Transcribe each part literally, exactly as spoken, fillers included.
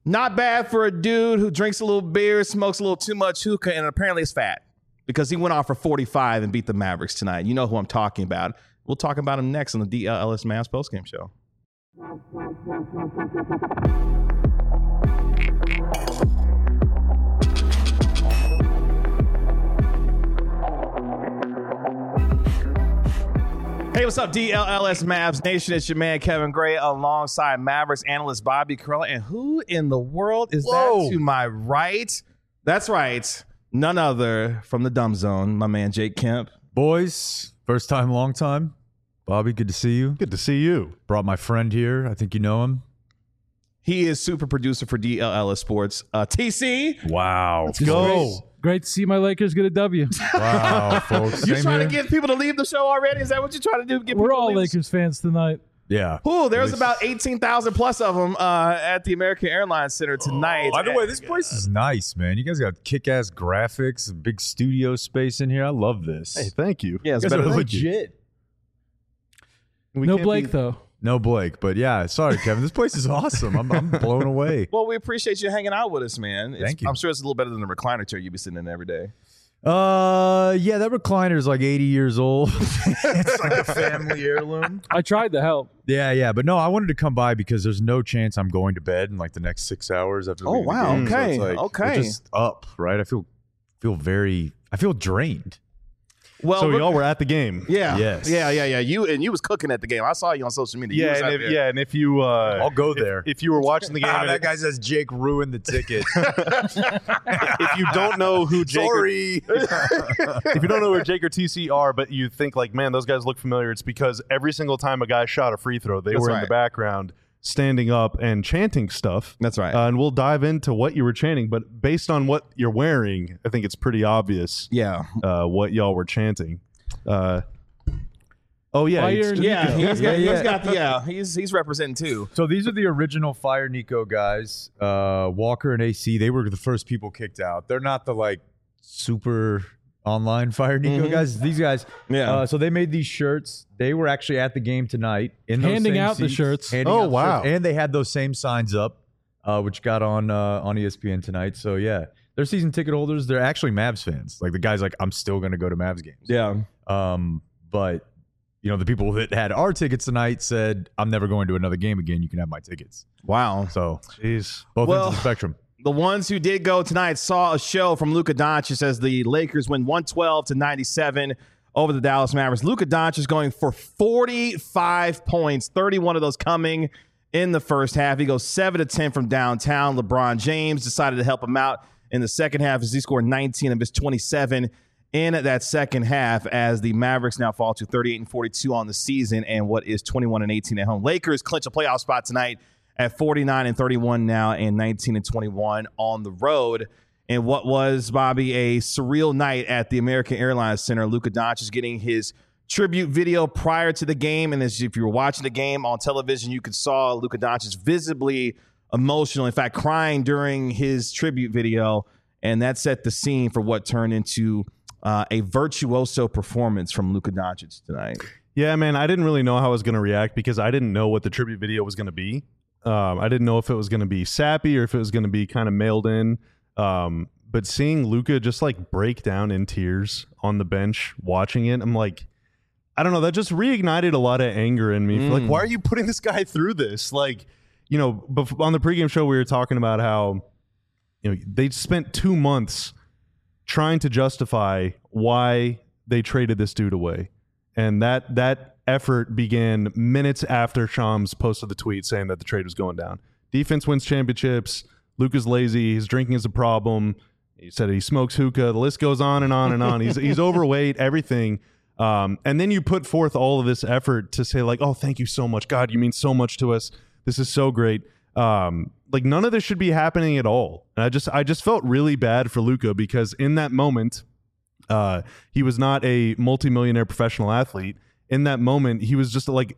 Not bad for a dude who drinks a little beer, smokes a little too much hookah, and apparently is fat because he went off for forty-five and beat the Mavericks tonight. You know who I'm talking about. We'll talk about him next on the D L L S Mavs postgame show. Hey, what's up, D L L S Mavs Nation? It's your man, Kevin Gray, alongside Mavericks analyst Bobby Karalla. And who in the world is Whoa. that to my right? That's right. None other from the Dumb Zone, my man, Jake Kemp. Boys, first time, long time. Bobby, good to see you. Good to see you. Brought my friend here. I think you know him. He is super producer for D L L S Sports. Uh, T C. Wow. Let's go. Great to see my Lakers get a W. Wow, folks. You Same trying here. to get people to leave the show already? Is that what you're trying to do? Get We're people to all leave the- Lakers fans tonight. Yeah. Ooh, there's At least- about eighteen thousand plus of them uh, at the American Airlines Center tonight. By the way, this place is nice, man. You guys got kick-ass graphics, a big studio space in here. I love this. Hey, thank you. Yeah, it's You guys better are than legit. We no can't Blake, be- though. No Blake, but yeah, sorry, Kevin. This place is awesome. I'm, I'm blown away. Well, we appreciate you hanging out with us, man. It's- Thank you. I'm sure it's a little better than the recliner chair you be sitting in every day. Uh, yeah, that recliner is like eighty years old. It's like a family heirloom. I tried to help. Yeah, yeah, but no, I wanted to come by because there's no chance I'm going to bed in like the next six hours after. Oh, leaving the wow, game. So okay, it's like, okay. we're just up, right? I feel feel very. I feel drained. Well, So look- y'all were at the game. yeah, Yes. yeah, yeah, yeah. You and you was cooking at the game. I saw you on social media. You Yeah, was and out if, there. yeah, and if you, uh, I'll go if- there. If, you were watching the game, Ah, and that it- guy says Jake ruined the ticket. if you don't know who Jake, or, Sorry. if you don't know who Jake or T C are, but you think like, man, those guys look familiar, it's because every single time a guy shot a free throw, they That's were in right. the background standing up and chanting stuff. That's right. Uh, and we'll dive into what you were chanting, but based on what you're wearing, I think it's pretty obvious yeah, uh, what y'all were chanting. Uh, oh yeah, Fire it's- and yeah. Nico. He's got, Yeah, he's yeah. got the yeah. He's he's representing too. So these are the original Fire Nico guys. Uh, Walker and A C, they were the first people kicked out. They're not the like super online Fire Nico Mhm. guys. These guys, Yeah. Uh, so they made these shirts. They were actually at the game tonight in those Handing same out the seats, shirts. handing Oh, out the wow. shirts. And they had those same signs up, uh, which got on uh, on E S P N tonight. So yeah, they're season ticket holders. They're actually Mavs fans. Like the guy's like, I'm still gonna go to Mavs games. Yeah. Um, but you know, the people that had our tickets tonight said, I'm never going to another game again. You can have my tickets. Wow. So Jeez. both Well- ends of the spectrum. The ones who did go tonight saw a show from Luka Doncic as the Lakers win one twelve to ninety-seven over the Dallas Mavericks. Luka Doncic going for forty-five points, thirty-one of those coming in the first half. He goes seven to ten from downtown. LeBron James decided to help him out in the second half as he scored nineteen of his twenty-seven in that second half as the Mavericks now fall to thirty-eight and forty-two on the season and what is twenty-one and eighteen at home. Lakers clinch a playoff spot tonight at forty-nine and thirty-one now and nineteen and twenty-one on the road. And what was, Bobby, a surreal night at the American Airlines Center. Luka Doncic getting his tribute video prior to the game. And as if you were watching the game on television, you could saw Luka Doncic visibly emotional, in fact, crying during his tribute video. And that set the scene for what turned into uh, a virtuoso performance from Luka Doncic tonight. Yeah, man, I didn't really know how I was going to react because I didn't know what the tribute video was going to be. Um, I didn't know if it was going to be sappy or if it was going to be kind of mailed in. Um, but seeing Luka just like break down in tears on the bench, watching it, I'm like, I don't know, that just reignited a lot of anger in me. Mm. Like, why are you putting this guy through this? Like, you know, bef- on the pregame show, we were talking about how, you know, they spent two months trying to justify why they traded this dude away. And that that effort began minutes after Shams posted the tweet saying that the trade was going down. Defense wins championships. Luka's lazy. His drinking is a problem. He said he smokes hookah. The list goes on and on and on. He's he's overweight, everything. Um, and then you put forth all of this effort to say like, oh, thank you so much. God, you mean so much to us. This is so great. Um, like none of this should be happening at all. And I just I just felt really bad for Luka because in that moment, uh, he was not a multimillionaire professional athlete. In that moment, he was just like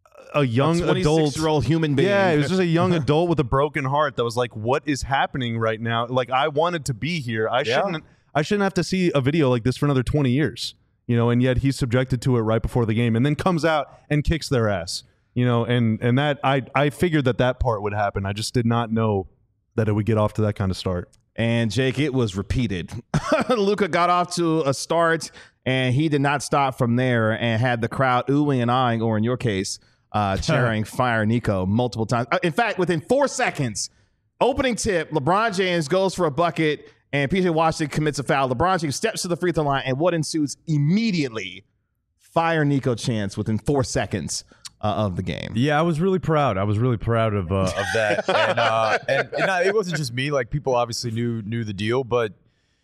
a young a adult, twenty-six-year-old human being. Yeah, it was just a young adult with a broken heart that was like, "What is happening right now?" Like, I wanted to be here. I Yeah. shouldn't. I shouldn't have to see a video like this for another twenty years. You know, and yet he's subjected to it right before the game, and then comes out and kicks their ass. You know, and and that I I figured that that part would happen. I just did not know that it would get off to that kind of start. And Jake, it was repeated. Luka got off to a start, and he did not stop from there and had the crowd oohing and eyeing, or in your case, uh, cheering Fire Nico multiple times. In fact, within four seconds, opening tip, LeBron James goes for a bucket, and P J Washington commits a foul. LeBron James steps to the free throw line, and what ensues immediately? Fire Nico chants within four seconds uh, of the game. Yeah, I was really proud. I was really proud of uh, of that, and uh, and, and I, it wasn't just me. Like, people obviously knew knew the deal, but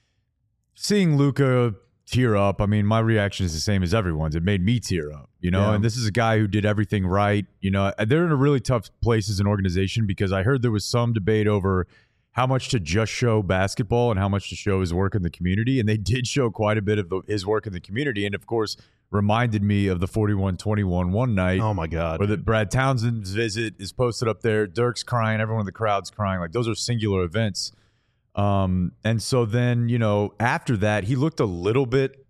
seeing Luka tear up, I mean, my reaction is the same as everyone's. It made me tear up, you know. Yeah. And this is a guy who did everything right. You know, they're in a really tough place as an organization because I heard there was some debate over how much to just show basketball and how much to show his work in the community, and they did show quite a bit of the, his work in the community, and of course reminded me of the forty-one twenty-one one night. Oh my God. Where the Brad Townsend's visit is posted up there. Dirk's crying. Everyone in the crowd's crying. Like, those are singular events. Um, and so then, you know, after that, he looked a little bit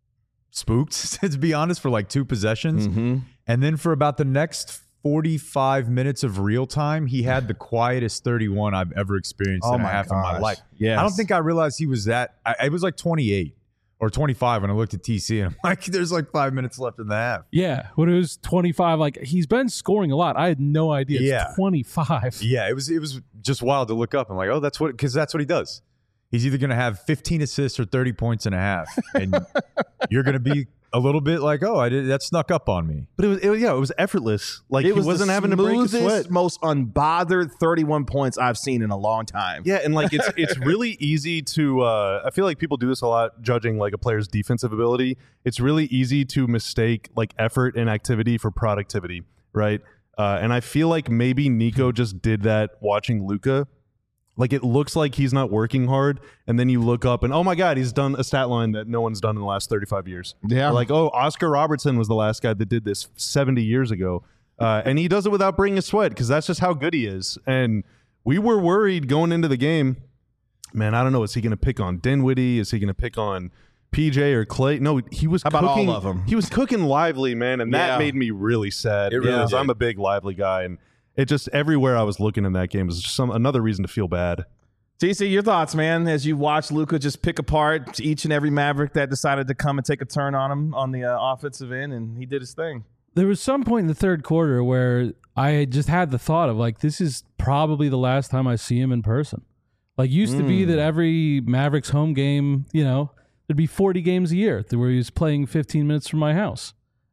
spooked, to be honest, for like two possessions. Mm-hmm. And then for about the next forty-five minutes of real time, he had the quietest thirty-one I've ever experienced Oh in a my half of my gosh. life. Yes. I don't think I realized he was that. I, it was like twenty-eight or twenty-five when I looked at T C, and I'm like, there's like five minutes left in the half. Yeah, when it was twenty-five, like he's been scoring a lot. I had no idea. It's Yeah. twenty-five. Yeah, it was it was just wild to look up and like, oh, that's what, because that's what he does. He's either going to have fifteen assists or thirty points and a half, and you're going to be a little bit like, oh, I did that snuck up on me. But it was, it was yeah, it was effortless. Like, It he was wasn't the having to break a smoothest, sweat. most unbothered thirty-one points I've seen in a long time. Yeah, and like it's it's really easy to uh I feel like people do this a lot judging like a player's defensive ability. It's really easy to mistake like effort and activity for productivity, right? Uh and I feel like maybe Nico just did that watching Luka. Like, it looks like he's not working hard, and then you look up and, oh my God, he's done a stat line that no one's done in the last thirty-five years. Yeah. Or like, oh, Oscar Robertson was the last guy that did this seventy years ago. Uh, and he does it without bringing a sweat because that's just how good he is. And we were worried going into the game, man, I don't know, is he going to pick on Dinwiddie? Is he going to pick on P J or Clay? No, he was How about cooking. all of them? He was cooking Lively, man, and that Yeah. made me really sad. It really because did. I'm a big Lively guy, and it just, everywhere I was looking in that game was just some another reason to feel bad. T C, your thoughts, man, as you watch Luka just pick apart each and every Maverick that decided to come and take a turn on him on the uh, offensive end, and he did his thing. There was some point in the third quarter where I had just had the thought of like, this is probably the last time I see him in person. Like, used to be that every Mavericks home game, you know, there'd be forty games a year where he was playing fifteen minutes from my house.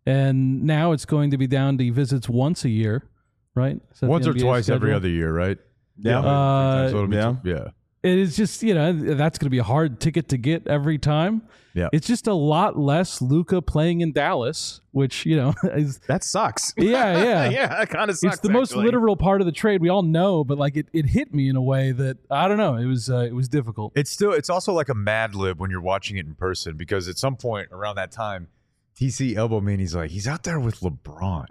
And now it's going to be down to he visits once a year, right? Is that Once the or N B A twice every schedule? other year, right? Yeah. Uh, So it'll be yeah. two- yeah. It is just, you know, that's going to be a hard ticket to get every time. Yeah. It's just a lot less Luka playing in Dallas, which, you know, is, That sucks. yeah, yeah. yeah, that kind of sucks. It's the most actually. literal part of the trade. We all know, but like it, it hit me in a way that I don't know. It was uh, it was difficult. It's still it's also like a Mad Lib when you're watching it in person, because at some point around that time, T C elbowed me and he's like, he's out there with LeBron.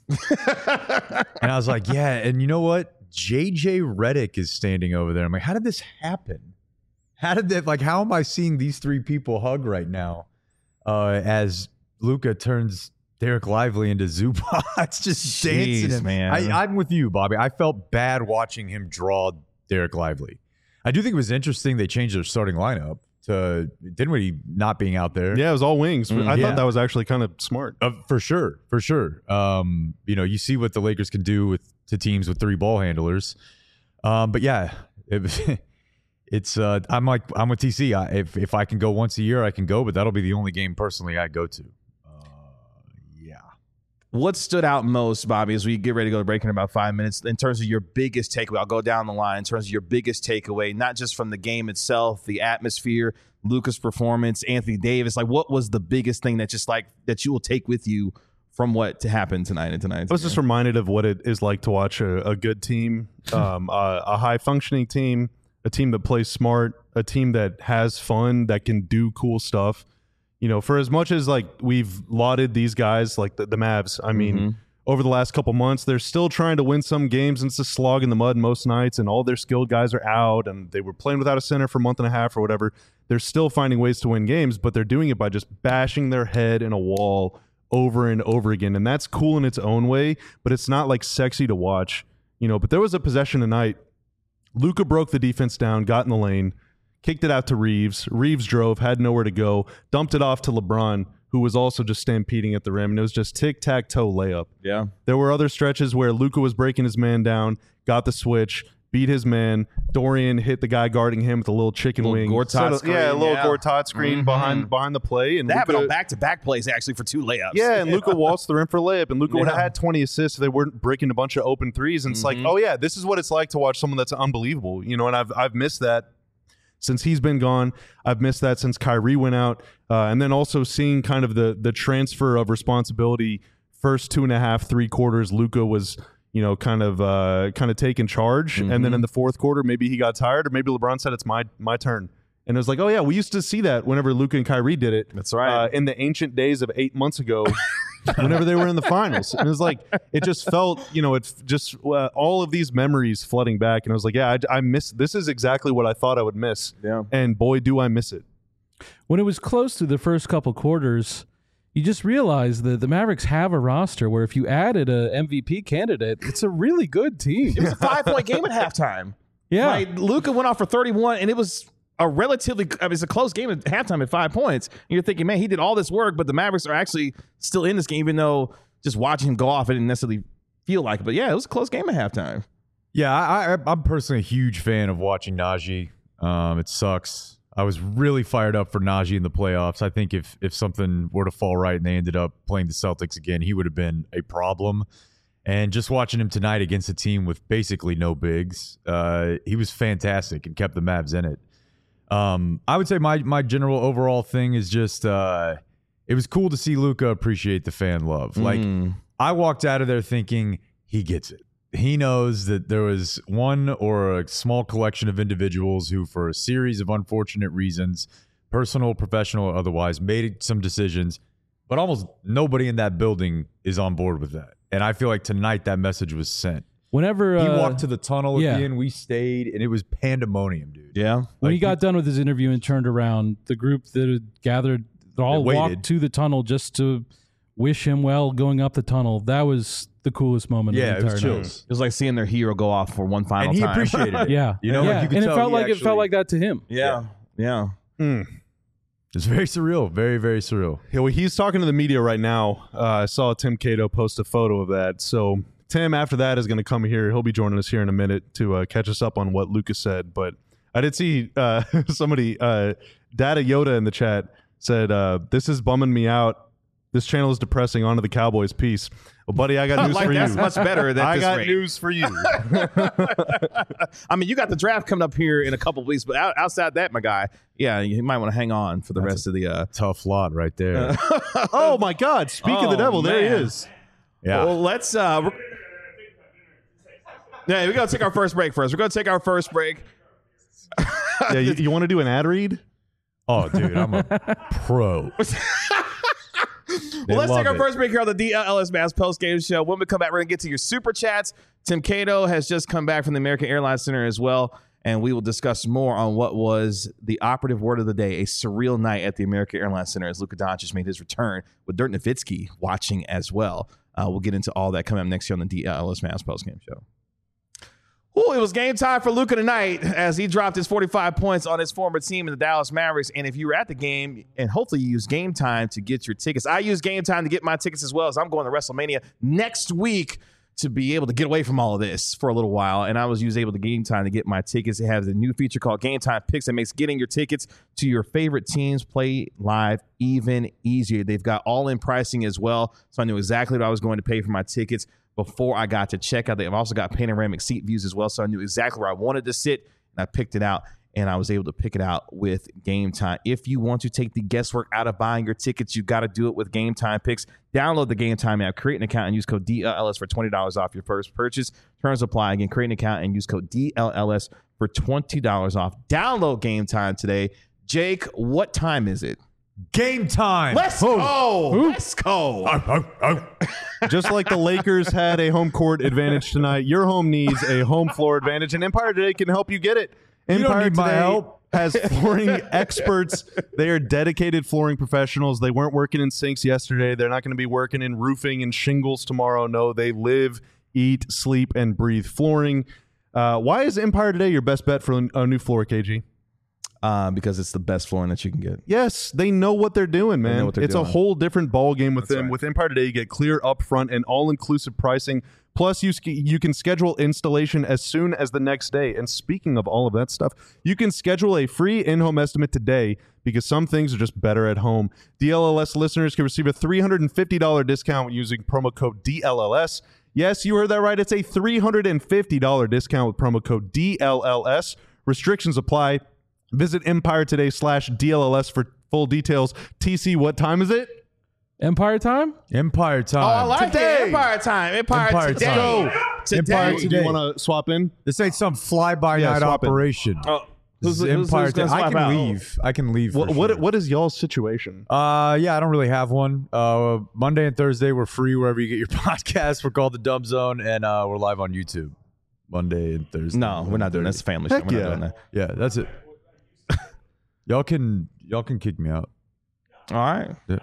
And I was like, yeah, and you know what? J J Redick is standing over there. I'm like, how did this happen? How did that, like, how am I seeing these three people hug right now uh, as Luka turns Derek Lively into Zubac, just Jeez, dancing him. man. I, I'm with you, Bobby. I felt bad watching him draw Derek Lively. I do think it was interesting they changed their starting lineup to Dinwiddie not being out there. Yeah, it was all wings. Mm, I yeah. thought that was actually kind of smart. Uh, for sure, for sure. Um, you know, you see what the Lakers can do with to teams with three ball handlers. Um, but yeah, it, it's. Uh, I'm like I'm with T C. I, if if I can go once a year, I can go, but that'll be the only game personally I go to. Uh, yeah. What stood out most, Bobby, as we get ready to go to break in about five minutes, in terms of your biggest takeaway? I'll go down the line in terms of your biggest takeaway, not just from the game itself, the atmosphere, Luka's performance, Anthony Davis. Like, what was the biggest thing that just like that you will take with you from what to happen tonight and tonight? I was just reminded of what it is like to watch a, a good team, um, a, a high functioning team, a team that plays smart, a team that has fun, that can do cool stuff. You know, for as much as like we've lauded these guys, like the, the Mavs, I mean, Mm-hmm. over the last couple months, they're still trying to win some games, and it's a slog in the mud most nights, and all their skilled guys are out, and they were playing without a center for a month and a half or whatever. They're still finding ways to win games, but they're doing it by just bashing their head in a wall over and over again. And that's cool in its own way, but it's not like sexy to watch, you know. But there was a possession tonight Luka broke the defense down, got in the lane, kicked it out to Reeves. Reeves drove, had nowhere to go, dumped it off to LeBron, who was also just stampeding at the rim, and it was just tic-tac-toe layup. Yeah. There were other stretches where Luka was breaking his man down, got the switch, beat his man. Dorian hit the guy guarding him with a little chicken Little wing. Gortat Settled- screen, yeah, a little yeah. Gortat screen Mhm. behind behind the play. And That happened Luka- on back-to-back plays, actually, for two layups. Yeah, and Luka waltzed the rim for a layup, and Luka would have Yeah. had twenty assists if they weren't breaking a bunch of open threes. And it's like, oh yeah, this is what it's like to watch someone that's unbelievable. You know, and I've I've missed that since he's been gone. I've missed that since Kyrie went out, uh, and then also seeing kind of the the transfer of responsibility. First two and a half, three quarters, Luka was, you know, kind of uh, kind of taking charge, and then in the fourth quarter, maybe he got tired, or maybe LeBron said it's my my turn. And it was like, oh yeah, we used to see that whenever Luka and Kyrie did it. That's right. Uh, in the ancient days of eight months ago, whenever they were in the finals, and it was like, it just felt, you know, it's just uh, all of these memories flooding back, and I was like, yeah, I, I miss. This is exactly what I thought I would miss. Yeah. And boy, do I miss it. When it was close to the first couple quarters, you just realized that the Mavericks have a roster where if you added a M V P candidate, it's a really good team. It was a five-point game at halftime. Yeah. Like, Luka went off for thirty-one, and it was a relatively – I mean, it's a close game at halftime at five points. And you're thinking, man, he did all this work, but the Mavericks are actually still in this game, even though just watching him go off, it didn't necessarily feel like it. But, yeah, it was a close game at halftime. Yeah, I, I, I'm personally a huge fan of watching Najee. Um, it sucks. I was really fired up for Najee in the playoffs. I think if if something were to fall right and they ended up playing the Celtics again, he would have been a problem. And just watching him tonight against a team with basically no bigs, uh, he was fantastic and kept the Mavs in it. Um, I would say my my general overall thing is just uh, it was cool to see Luka appreciate the fan love. Like I walked out of there thinking he gets it. He knows that there was one or a small collection of individuals who, for a series of unfortunate reasons, personal, professional, or otherwise, made some decisions, but almost nobody in that building is on board with that. And I feel like tonight that message was sent. Whenever He uh, walked to the tunnel at yeah. the end, we stayed, and it was pandemonium, dude. Yeah. when Like, he got done with his interview and turned around, the group that had gathered, they all They walked waited. to the tunnel just to wish him well going up the tunnel. That was the coolest moment Yeah, of it the was entire night. chills. It was like seeing their hero go off for one final And he time. appreciated it. Yeah, You know, yeah. like you could and it tell felt he like it actually- felt like that to him. Yeah. Yeah. It's very surreal. Very, very surreal. Yeah, well, he's talking to the media right now. Uh, I saw Tim Cato post a photo of that. So Tim, after that, is going to come here. He'll be joining us here in a minute to uh, catch us up on what Lucas said. But I did see uh, somebody, uh, Data Yoda in the chat said, uh, this is bumming me out. This channel is depressing. On to the Cowboys. Peace. Well, buddy, I got news Like, for that's you. much better than I this got rate. news for you. I mean, you got the draft coming up here in a couple of weeks, but out, outside that, my guy, yeah, you might want to hang on for the rest of the. Uh, Tough lot right there. Oh, my God. Speak of the Oh, devil. There he man. is. Yeah. Well, let's. Uh, we're- yeah, we're gonna take our first break first. We're gonna take our first break. Yeah, you, you want to do an ad read? Oh, dude, I'm a pro. Well, let's take love our it. first break here on the D L L S Mass Post Game Show. When we come back, we're going to get to your super chats. Tim Cato has just come back from the American Airlines Center as well, and we will discuss more on what was the operative word of the day, a surreal night at the American Airlines Center as Luka Doncic made his return with Dirk Nowitzki watching as well. Uh, we'll get into all that coming up next year on the D L L S Mass Post Game Show. Ooh, it was game time for Luka tonight as he dropped his forty-five points on his former team in the Dallas Mavericks. And if you were at the game, and hopefully you used Game Time to get your tickets. I use Game Time to get my tickets as well, as I'm going to WrestleMania next week to be able to get away from all of this for a little while. And I was used able to Game Time to get my tickets. It has a new feature called Game Time Picks that makes getting your tickets to your favorite teams play live even easier. They've got all-in pricing as well, so I knew exactly what I was going to pay for my tickets before I got to checkout. They've also got panoramic seat views as well, so I knew exactly where I wanted to sit, and I picked it out, and I was able to pick it out with Game Time. If you want to take the guesswork out of buying your tickets, you got to do it with Game Time Picks. Download the Game Time app, create an account, and use code D L L S for twenty dollars off your first purchase. Terms apply. Again, create an account and use code D L L S for twenty dollars off. Download Game Time today. Jake, what time is it? Game time. Let's go. Let's go. Just like the Lakers had a home court advantage tonight, your home needs a home floor advantage, and Empire Today can help you get it. don't Empire need my Today help. has flooring experts. They are dedicated flooring professionals. They weren't working in sinks yesterday. They're not going to be working in roofing and shingles tomorrow. No, they live, eat, sleep, and breathe flooring. Uh, why is Empire Today your best bet for a new floor, K G? Uh, because it's the best flooring that you can get. Yes, they know what they're doing, man. know what they're it's doing. a whole different ball game with That's them. right. With Empire Today, you get clear upfront and all-inclusive pricing. Plus, you sk- you can schedule installation as soon as the next day. And speaking of all of that stuff, you can schedule a free in-home estimate today because some things are just better at home. D L L S listeners can receive a three hundred fifty dollars discount using promo code D L L S. Yes, you heard that right. It's a three hundred fifty dollars discount with promo code D L L S. Restrictions apply. Visit Empire Today slash D L L S for full details. T C, what time is it? Empire time? Empire time. Oh, I like Today. it. Empire time. Empire, Empire today. time. Go. Today. Empire Do today. you want to swap in? This ain't some fly-by-night Yeah, swap it. operation. Oh, This who's, is who's, Empire who's gonna Today. I swap can out? leave. I can leave. For What, what sure. what is y'all's situation? Uh, yeah, I don't really have one. Uh, Monday and Thursday we're free wherever you get your podcasts. We're called the Dumb Zone, and uh, we're live on YouTube. Monday and Thursday. No, we're not doing this. Family show. Heck We're yeah. not doing that. Yeah, that's it. y'all can y'all can kick me out. All right. Yeah.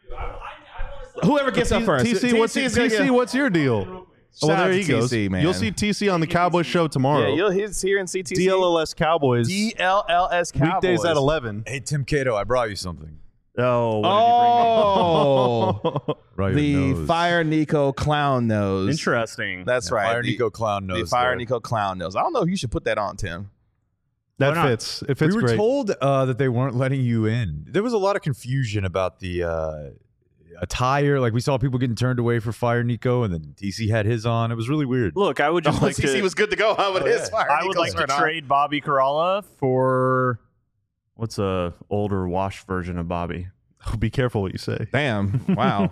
Whoever gets up first. T C, what's, is T gonna C, get- what's your deal? Oh, Shout well, out there to he goes. T C, man. You'll see T C on the Cowboys show tomorrow. Yeah, you'll he's here in C T C. D L L S Cowboys. D L L S Cowboys. Weekdays at eleven. Hey, Tim Cato, I brought you something. Oh, what did you bring me? Oh, Right, the your nose. Fire Nico clown nose. Interesting. That's Yeah, right. Fire the, Nico clown nose. The Fire there. Nico clown nose. I don't know if you should put that on, Tim. That Why not? fits. It fits we were great. told uh, that they weren't letting you in. There was a lot of confusion about the uh, attire. Like we saw people getting turned away for Fire Nico, and then T C had his on. It was really weird. Look, I would just Oh, like C C to. was good to go huh, with his Fire I would Nico like to shirt on. trade Bobby Caralla for what's a older washed version of Bobby. Be careful what you say. Damn. Wow.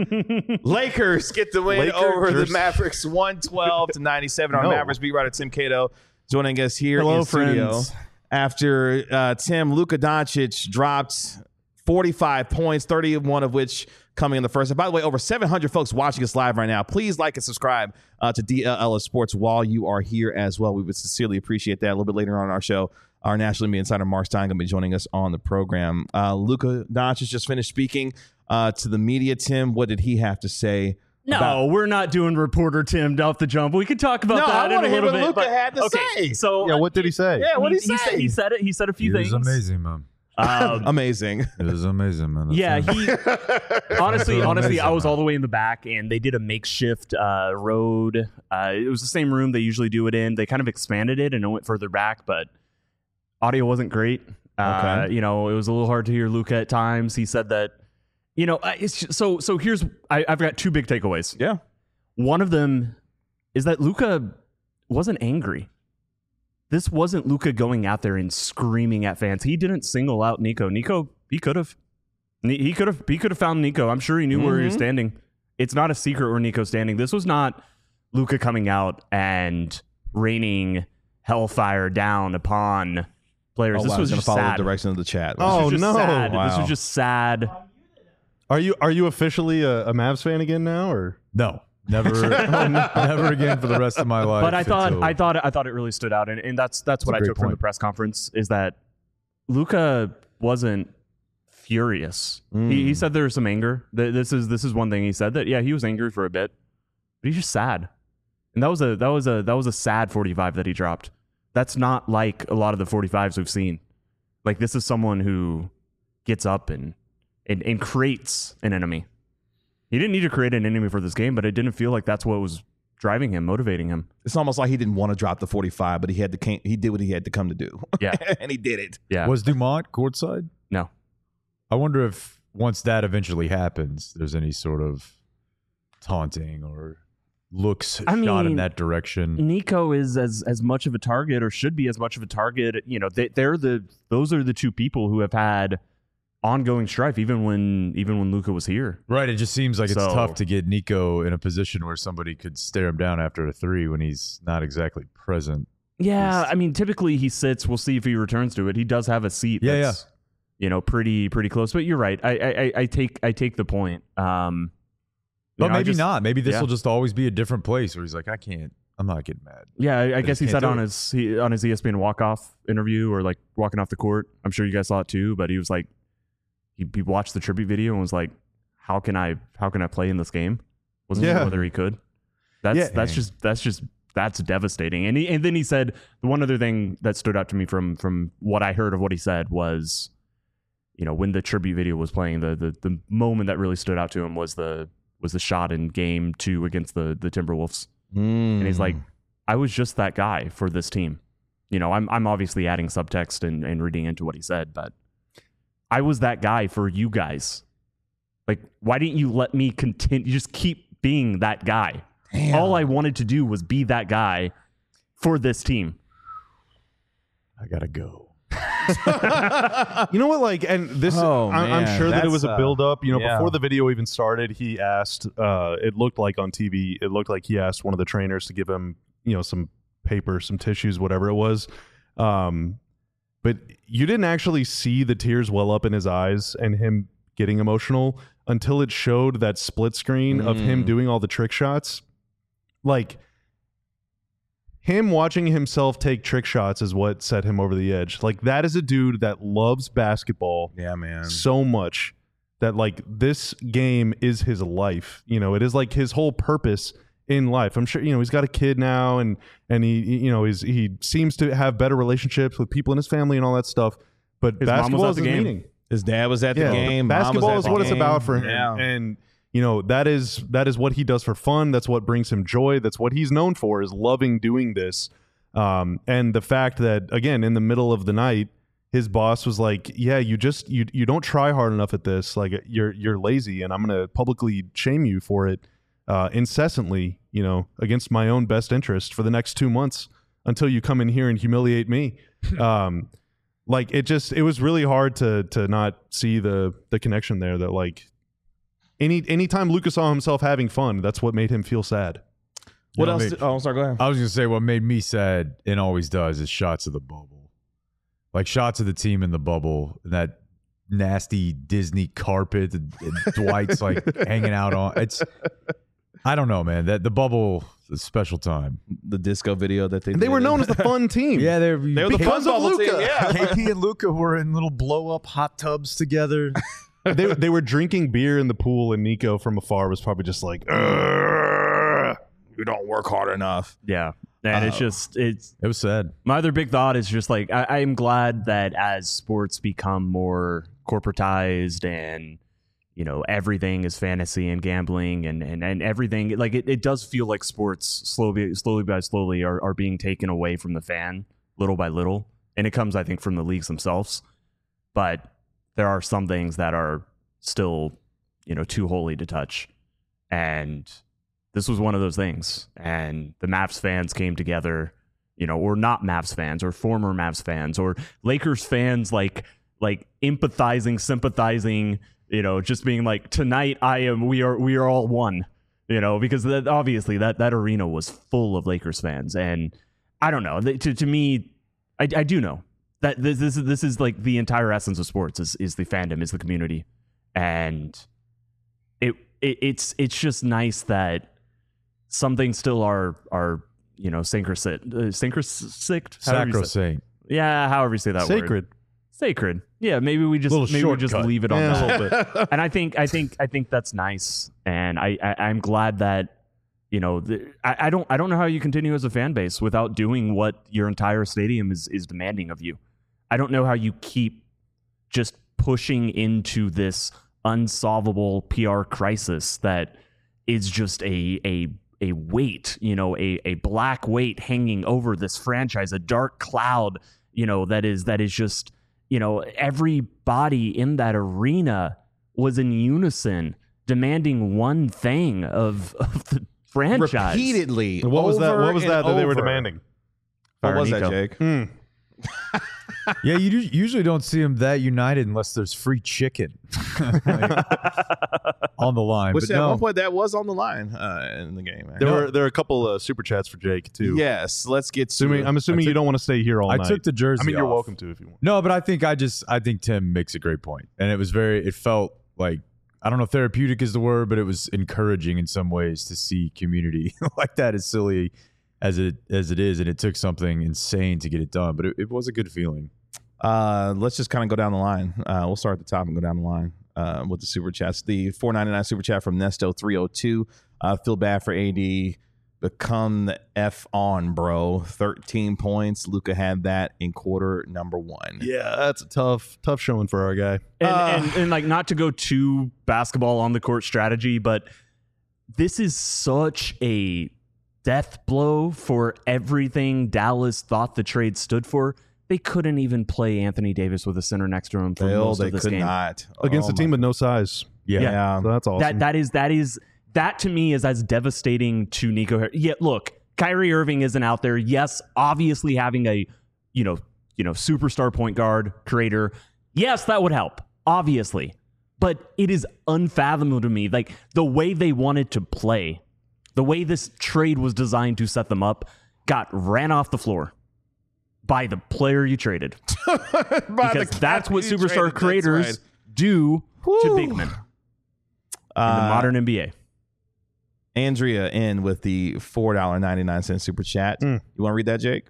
Lakers get the win Lakers. over the Mavericks one twelve to ninety-seven. Our No. Mavericks beat writer Tim Cato joining us here Hello, in studio. friends. After uh, Tim, Luka Doncic dropped forty-five points, thirty-one of which coming in the first. And by the way, over seven hundred folks watching us live right now. Please like and subscribe uh, to D L L S Sports while you are here as well. We would sincerely appreciate that. A little bit later on in our show, our national media insider Mark Stein going to be joining us on the program. Uh, Luka Doncic just finished speaking uh, to the media. Tim, what did he have to say? No, about- we're not doing reporter Tim off the jump. We could talk about No, I that in wanna a hear little what bit. Luka but- had to okay, say. So Yeah, what did he say? Yeah, what did he, he, say? said, he said it. He said a few It was things. amazing, man. Um, Amazing. It was amazing, man. That's yeah, it. he honestly, That's honestly, I amazing, was man. all the way in the back, and they did a makeshift uh, road. Uh, it was the same room they usually do it in. They kind of expanded it and it went further back, but audio wasn't great. Uh, Okay. you know, it was a little hard to hear Luka at times. He said that, you know, uh, it's just, so. So here's I, I've got two big takeaways. Yeah. One of them is that Luka wasn't angry. This wasn't Luka going out there and screaming at fans. He didn't single out Nico. Nico, he could have. He could have. He could have found Nico. I'm sure he knew where he was Mhm. standing. It's not a secret where Nico's standing. This was not Luka coming out and raining hellfire down upon players. Oh, this wow, was going to just follow sad. the direction of the chat. This Oh, was just no. sad. This Wow. was just sad. Are you are you officially a, a Mavs fan again now, or No, never, never again for the rest of my life. But I thought, until- I thought, I thought it really stood out, and, and that's that's what a I great took from the point. press conference is that Luka wasn't furious. He, Mm. he said there was some anger. Th- This is this is one thing he said that yeah he was angry for a bit, but he's just sad, and that was a that was a that was a sad forty-five that he dropped. That's not like a lot of the forty-fives we've seen. Like this is someone who gets up and and, and creates an enemy. He didn't need to create an enemy for this game, but it didn't feel like that's what was driving him, motivating him. It's almost like he didn't want to drop the forty-five, but he had to. Came, he did what he had to come to do. Yeah. and he did it. Yeah. Was Dumont courtside? No. I wonder if once that eventually happens, there's any sort of taunting or looks I shot in mean, that direction. Nico is as as much of a target, or should be as much of a target. You know, they, they're the those are the two people who have had ongoing strife, even when even when Luka was here. Right. It just seems like it's So- tough to get Nico in a position where somebody could stare him down after a three when he's not exactly present. Yeah, He's- I mean, typically he sits. We'll see if he returns to it. He does have a seat. Yeah, that's, You know, pretty pretty close. But you're right. I I, I take I take the point. Um, you But know, I maybe just- not. Maybe this yeah. will just always be a different place where he's like, I can't, I'm not getting mad. Yeah, I, I They guess just he can't said do on it. his he, on his E S P N walk off interview or like walking off the court. I'm sure you guys saw it too. But he was like, he, he watched the tribute video and was like, how can I how can I play in this game? Wasn't Yeah. sure whether he could. That's Yeah. that's just that's just that's devastating. And he, and then he said the one other thing that stood out to me from from what I heard of what he said was, you know, when the tribute video was playing, the the the moment that really stood out to him was the was the shot in game two against the the Timberwolves. Mm. And he's like, I was just that guy for this team. You know, I'm I'm obviously adding subtext and, and reading into what he said, but I was that guy for you guys. Like, why didn't you let me continue? Just keep being that guy. Damn. All I wanted to do was be that guy for this team. I gotta go. You know what? Like, and this, Oh, I, I'm man. sure that it That's, was a uh, build up. You know, yeah. before the video even started, he asked. Uh, it looked like on T V, it looked like he asked one of the trainers to give him, you know, some paper, some tissues, whatever it was. Um, but you didn't actually see the tears well up in his eyes and him getting emotional until it showed that split screen of him Mm. doing all the trick shots. Like, him watching himself take trick shots is what set him over the edge. Like, that is a dude that loves basketball Yeah, man. so much that, like, this game is his life. You know, it is like his whole purpose in life. I'm sure, you know, he's got a kid now, and and he, you know, he's he seems to have better relationships with people in his family and all that stuff. But His mom was basketball at is the his game. meaning. His dad was at the Yeah, game. Mom was basketball at is the what it's game. about for him. Yeah. And you know, that is that is what he does for fun. That's what brings him joy. That's what he's known for, is loving doing this. Um, and the fact that, again, in the middle of the night, his boss was like, yeah, you just you you don't try hard enough at this. Like, you're you're lazy, and I'm gonna publicly shame you for it uh, incessantly, you know, against my own best interest for the next two months until you come in here and humiliate me. um, like, it just it was really hard to to not see the the connection there, that like any anytime Luka saw himself having fun, that's what made him feel sad. What You know, else? mate, did- oh, sorry. Go ahead. I was gonna say what made me sad and always does is shots of the bubble, like shots of the team in the bubble, that nasty Disney carpet that that Dwight's like hanging out on. It's, I don't know, man. That the bubble is a special time. The disco video that they And they did. were known as the fun team. Yeah, they're, They were the Because fun of bubble team. Luka. Yeah. K P and Luca were in little blow up hot tubs together. they they were drinking beer in the pool, and Nico from afar was probably just like, "Ugh." You don't work hard enough. Yeah. And it's Uh, just, it's, It was sad. my other big thought is just like, I, I'm glad that as sports become more corporatized and, you know, everything is fantasy and gambling and, and, and everything, like it, it does feel like sports slowly, slowly by slowly are, are being taken away from the fan little by little. And it comes, I think, from the leagues themselves. But there are some things that are still, you know, too holy to touch. And this was one of those things. And the Mavs fans came together, you know, or not Mavs fans, or former Mavs fans, or Lakers fans, like like empathizing, sympathizing, you know, just being like, tonight I am, we are, we are all one, you know, because that, obviously that that arena was full of Lakers fans. And I don't know, th- to to me, I, I do know that this this is this is like the entire essence of sports is is the fandom, is the community, and it, it it's it's just nice that some things still are are you know synchrosit uh, synchrosit Sacrosanct. yeah, however you say that word. sacred. Sacred. Yeah, maybe we just Little maybe we just shortcut. leave it on Yeah, that. a little bit. And I think I think I think that's nice, and I, I I'm glad that you know the, I, I don't I don't know how you continue as a fan base without doing what your entire stadium is is demanding of you. I don't know how you keep just pushing into this unsolvable P R crisis that is just a a a weight, you know, a a black weight hanging over this franchise, a dark cloud, you know, that is that is just, you know, everybody in that arena was in unison demanding one thing of, of the franchise. Repeatedly. What was that? over What was and that that they were over. demanding? What Fire was that, Nico. Jake? Hmm. Yeah, you do- usually don't see them that united unless there's free chicken Like, on the line. Which but at no, one point that was on the line uh, in the game. There were there are a couple uh, super chats for Jake too. Yes, let's get to Assuming it. I'm assuming I took- you don't want to stay here all I night. took the jersey. I mean, you're off. welcome to if you want. No, but I think I just I think Tim makes a great point, and it was very. It felt like, I don't know if therapeutic is the word, but it was encouraging in some ways to see community like that, as silly as it as it is, and it took something insane to get it done, but it, it was a good feeling. Uh, let's just kind of go down the line. Uh, we'll start at the top and go down the line uh, with the super chats. The four ninety-nine super chat from Nesto three oh two. Uh, feel bad for A D. become the F on, bro. thirteen points. Luka had that in quarter number one. Yeah, that's a tough, tough showing for our guy. And, Uh. and, and like not to go too basketball on the court strategy, but this is such a death blow for everything Dallas thought the trade stood for. They couldn't even play Anthony Davis with a center next to him for Bill, most they of this could game. not. Against Oh a team my- with no size. Yeah. Yeah. So that's awesome. That that is that is that to me is as devastating to Nico Harris. Yeah, look, Kyrie Irving isn't out there. Yes, obviously having a you know you know superstar point guard creator. Yes, that would help. Obviously, but it is unfathomable to me, like the way they wanted to play, the way this trade was designed to set them up, got ran off the floor by the player you traded. Because that's what superstar creators do to big men in the Uh, modern N B A. Andrea in with the four dollars and ninety-nine cents super chat. Mm. You want to read that, Jake?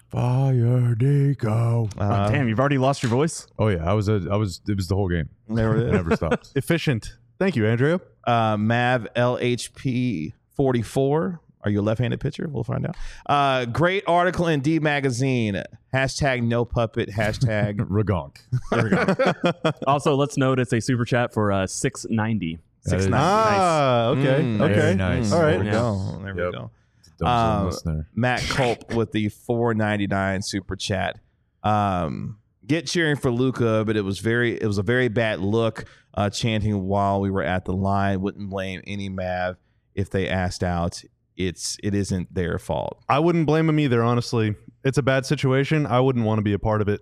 Fire Nico. Uh, oh, damn, you've already lost your voice? Oh yeah, I was a, I was it was the whole game. There it It is. never stops. Efficient. Thank you, Andrea. Uh, Mav L H P forty-four. Are you a left-handed pitcher? We'll find out. Uh, great article in D Magazine. Hashtag no puppet. Hashtag. Ragonk. There we go. Also, let's note it's a super chat for uh, six ninety. Six is- nine. Ah, okay. Mm, okay. very nice. All right. There we Yeah. go. There we Yep. go. Dumb Um, listener. Matt Culp with the four ninety-nine super chat. Um, get cheering for Luka, but it was very it was a very bad look. Uh, chanting while we were at the line. Wouldn't blame any Mav if they asked out. It's it isn't their fault. I wouldn't blame him either, honestly. It's a bad situation. I wouldn't want to be a part of it.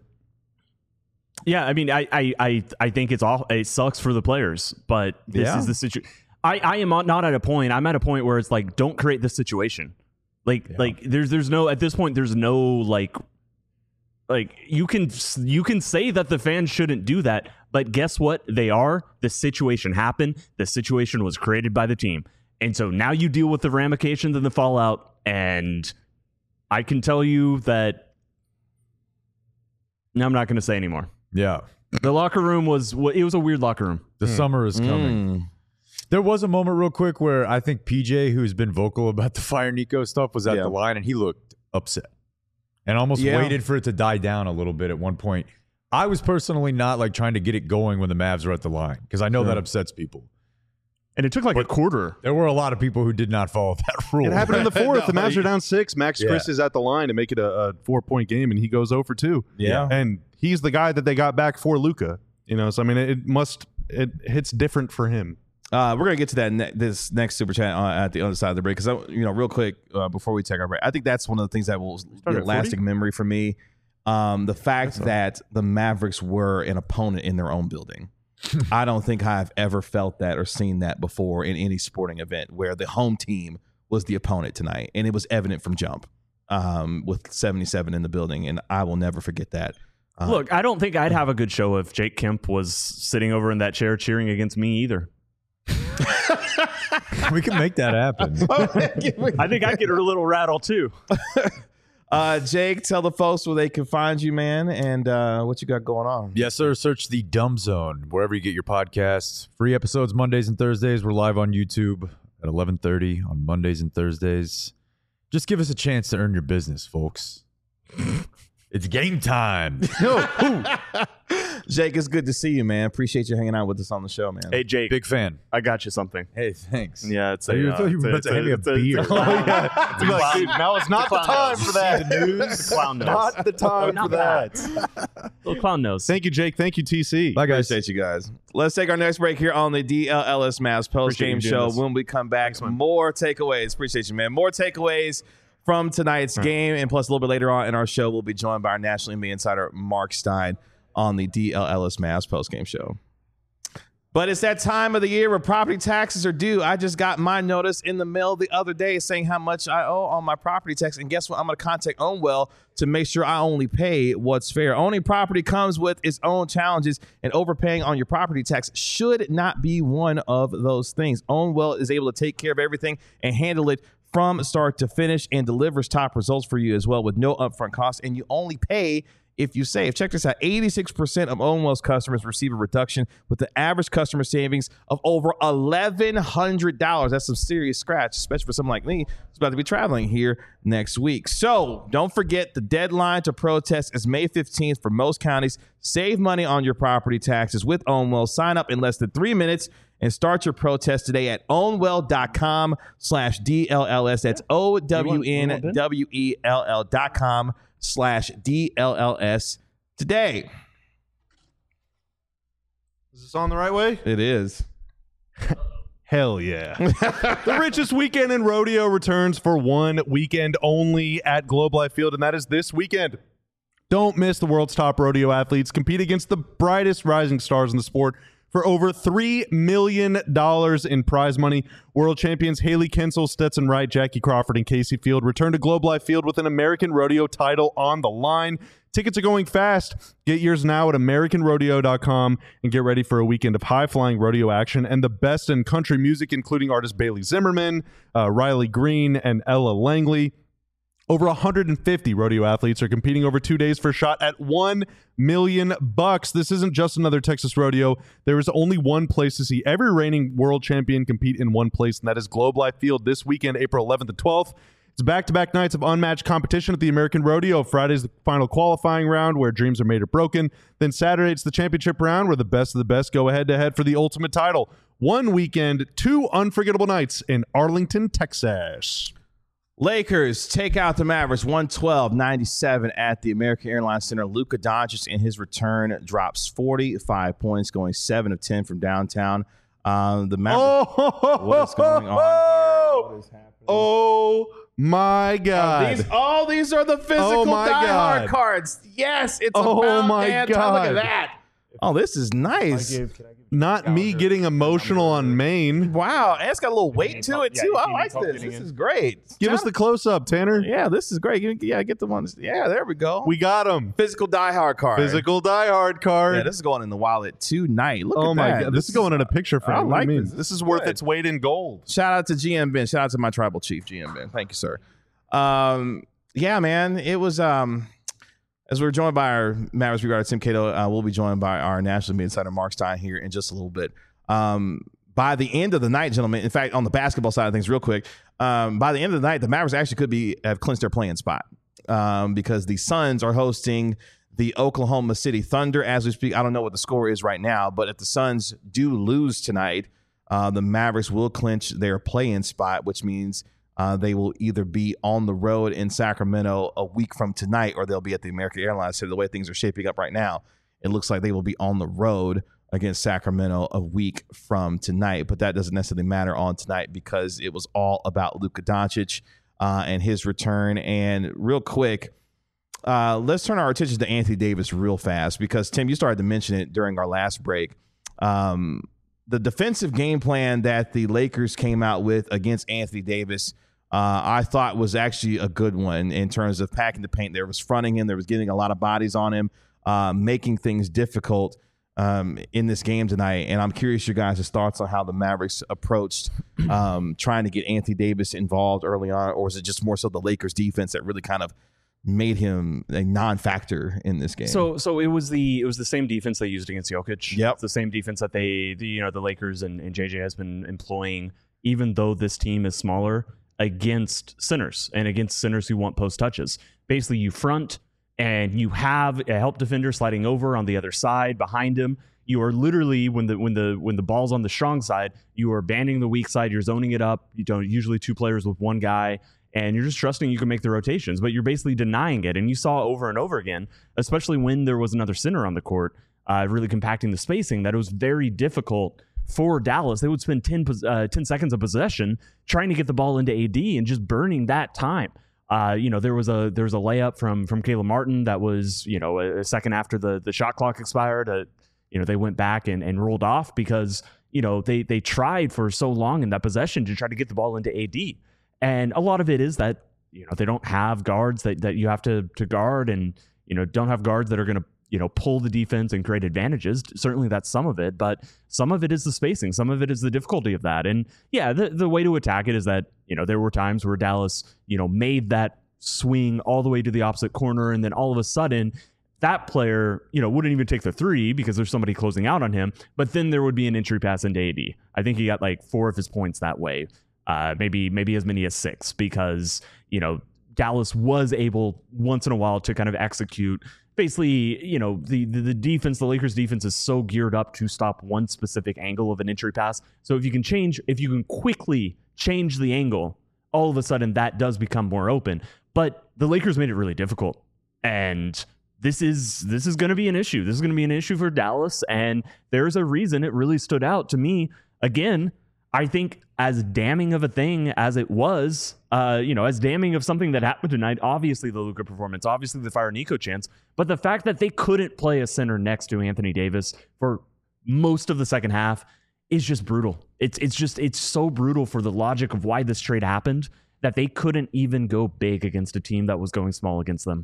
Yeah, I mean, I, I, I, I think it's all it sucks for the players, but this Yeah. is the situation. I, I am not at a point. I'm at a point where it's like, don't create this situation. Like, Yeah. like there's, there's no at this point. There's no like, like you can, you can say that the fans shouldn't do that, but guess what? They are. The situation happened. The situation was created by the team, and so now you deal with the ramifications and the fallout. And I can tell you that. No, I'm not going to say anymore. Yeah. The locker room was it was a weird locker room. The summer is coming. Mm. There was a moment real quick where I think P J, who's been vocal about the Fire Nico stuff, was at Yeah. the line and he looked upset and almost Yeah. waited for it to die down a little bit at one point. I was personally not like trying to get it going when the Mavs were at the line because I know that upsets people. And it took like a quarter. There were a lot of people who did not follow that rule. It happened in the fourth. the No, Mavs you- are down six. Max Yeah. Chris is at the line to make it a, a four-point game, and he goes zero for two. Yeah. And he's the guy that they got back for Luka. You know, so I mean, it, it must it hits different for him. Uh, we're gonna get to that ne- this next super chat uh, at the other side of the break because you know, real quick uh, before we take our break, I think that's one of the things that will be a at lasting memory for me. Um, the fact that the Mavericks were an opponent in their own building. I don't think I've ever felt that or seen that before in any sporting event where the home team was the opponent tonight, and it was evident from jump um, with seventy-seven in the building, and I will never forget that. Uh, Look, I don't think I'd have a good show if Jake Kemp was sitting over in that chair cheering against me either. We can make that happen. I think I'd get a little rattled too. uh, Jake, tell the folks where they can find you, man, and uh, what you got going on. Yes, sir. Search the Dumb Zone wherever you get your podcasts. Free episodes Mondays and Thursdays. We're live on YouTube at eleven thirty on Mondays and Thursdays. Just give us a chance to earn your business, folks. It's game time. Jake, it's good to see you, man. Appreciate you hanging out with us on the show, man. Hey Jake, Big fan. I got you something. Hey, thanks. Yeah, it's I a. thought you were uh, about it's to hand me a it's it's beer. it's clown- To be like, dude, now it's not the clown time nose. for that. It's a clown nose. Not the time Not for that. Little clown nose. Thank you, Jake. Thank you, T C. Bye, guys. Appreciate you guys. Let's take our next break here on the D L L S Mavs post Appreciate game you doing show. this. When we come back, more takeaways. Appreciate you, man. More takeaways from tonight's game, and plus a little bit later on in our show, we'll be joined by our national N B A insider Mark Stein on the D L L S Mavs post game show. But it's that time of the year where property taxes are due. I just got my notice in the mail the other day saying how much I owe on my property tax. And guess what? I'm going to contact Ownwell to make sure I only pay what's fair. Owning property comes with its own challenges, and overpaying on your property tax should not be one of those things. Ownwell is able to take care of everything and handle it from start to finish and delivers top results for you as well with no upfront costs. And you only pay if you save. Check this out. eighty-six percent of Owen Wells customers receive a reduction with the average customer savings of over eleven hundred dollars. That's some serious scratch, especially for someone like me who's about to be traveling here next week. So don't forget, the deadline to protest is May fifteenth for most counties. Save money on your property taxes with Owen Wells. Sign up in less than three minutes and start your protest today at ownwell.com slash DLLS. That's O W N W E L L dot com slash D L L S today. Is this on the right way? It is. Hell yeah. The richest weekend in rodeo returns for one weekend only at Globe Life Field, and that is this weekend. Don't miss the world's top rodeo athletes compete against the brightest rising stars in the sport for over three million dollars in prize money. World champions Haley Kinsel, Stetson Wright, Jackie Crawford, and Casey Field return to Globe Life Field with an American Rodeo title on the line. Tickets are going fast. Get yours now at American Rodeo dot com and get ready for a weekend of high-flying rodeo action and the best in country music, including artists Bailey Zimmerman, uh, Riley Green, and Ella Langley. Over one hundred fifty rodeo athletes are competing over two days for a shot at one million bucks. This isn't just another Texas rodeo. There is only one place to see every reigning world champion compete in one place, and that is Globe Life Field this weekend, April eleventh and twelfth. It's back-to-back nights of unmatched competition at the American Rodeo. Friday's the final qualifying round where dreams are made or broken. Then Saturday, it's the championship round where the best of the best go head-to-head for the ultimate title. One weekend, two unforgettable nights in Arlington, Texas. Lakers take out the Mavericks one twelve ninety-seven at the American Airlines Center. Luka Doncic in his return drops forty-five points, going seven of ten from downtown. Um, the Mavericks. Oh, what is going on here? What is happening? Oh my God! Oh, these, oh, these are the physical Oh, my diehard God. cards. Yes, it's Oh, about my damn time. Look at God. that. Oh, this is nice. Not me getting emotional on Maine. Wow, and it's got a little weight to it Yeah, too. if I you like need help this. getting This in. is great. Give us the close-up, Tanner. Yeah, this is great. Give me- Yeah, get the ones. Yeah, there we go. We got him. Physical diehard card. Physical diehard card. Yeah, this is going in the wallet tonight. Look oh at my that. God! This, is going in a picture frame. I What do you like mean? this. This, This is is worth good. its weight in gold. Shout out to G M Ben. Shout out to my tribal chief, G M Ben. Thank you, sir. Um, yeah, man. It was um, as we were joined by our Mavericks Beat writer Tim Cato, uh, we'll be joined by our national media insider Mark Stein here in just a little bit. Um, by the end of the night, gentlemen, in fact, on the basketball side of things, real quick, um, by the end of the night, the Mavericks actually could be have clinched their playing spot um, because the Suns are hosting the Oklahoma City Thunder as we speak. I don't know what the score is right now, but if the Suns do lose tonight, uh, the Mavericks will clinch their play-in spot, which means uh, they will either be on the road in Sacramento a week from tonight or they'll be at the American Airlines Center. The way things are shaping up right now, it looks like they will be on the road against Sacramento a week from tonight. But that doesn't necessarily matter on tonight because it was all about Luka Doncic uh, and his return. And real quick, uh, let's turn our attention to Anthony Davis real fast because, Tim, you started to mention it during our last break. Um, the defensive game plan that the Lakers came out with against Anthony Davis, uh, I thought was actually a good one in terms of packing the paint. There was fronting him. There was getting a lot of bodies on him, uh, making things difficult um, in this game tonight. And I'm curious your guys' thoughts on how the Mavericks approached um, trying to get Anthony Davis involved early on, or was it just more so the Lakers defense that really kind of made him a non-factor in this game? So, so it was the it was the same defense they used against Jokic. Yep. It's the same defense that they, the, you know, the Lakers and, and J J has been employing, even though this team is smaller, against centers and against centers who want post touches. Basically, you front and you have a help defender sliding over on the other side behind him. You are literally when the when the when the ball's on the strong side, you are banding the weak side. You're zoning it up. You don't usually two players with one guy. And you're just trusting you can make the rotations, but you're basically denying it. And you saw over and over again, especially when there was another center on the court, uh, really compacting the spacing, that it was very difficult for Dallas. They would spend ten, uh, ten seconds of possession trying to get the ball into A D and just burning that time. Uh, you know, there was a there was a layup from from Caleb Martin that was, you know, a, a second after the the shot clock expired. Uh, you know, they went back and, and rolled off because, you know, they they tried for so long in that possession to try to get the ball into A D. And a lot of it is that, you know, they don't have guards that, that you have to to guard and, you know, don't have guards that are going to, you know, pull the defense and create advantages. Certainly that's some of it, but some of it is the spacing. Some of it is the difficulty of that. And yeah, the, the way to attack it is that, you know, there were times where Dallas, you know, made that swing all the way to the opposite corner. And then all of a sudden, that player, you know, wouldn't even take the three because there's somebody closing out on him. But then there would be an entry pass into A D. I think he got like four of his points that way. Uh, maybe maybe as many as six because, you know, Dallas was able once in a while to kind of execute. Basically, you know, the, the the defense, the Lakers defense is so geared up to stop one specific angle of an entry pass. So if you can change, if you can quickly change the angle, all of a sudden that does become more open. But the Lakers made it really difficult. And this is this is going to be an issue. This is going to be an issue for Dallas. And there's a reason it really stood out to me. Again, I think as damning of a thing as it was, uh, you know, as damning of something that happened tonight, obviously the Luka performance, obviously the Fire Nico chance, but the fact that they couldn't play a center next to Anthony Davis for most of the second half is just brutal. It's it's just, it's so brutal for the logic of why this trade happened that they couldn't even go big against a team that was going small against them.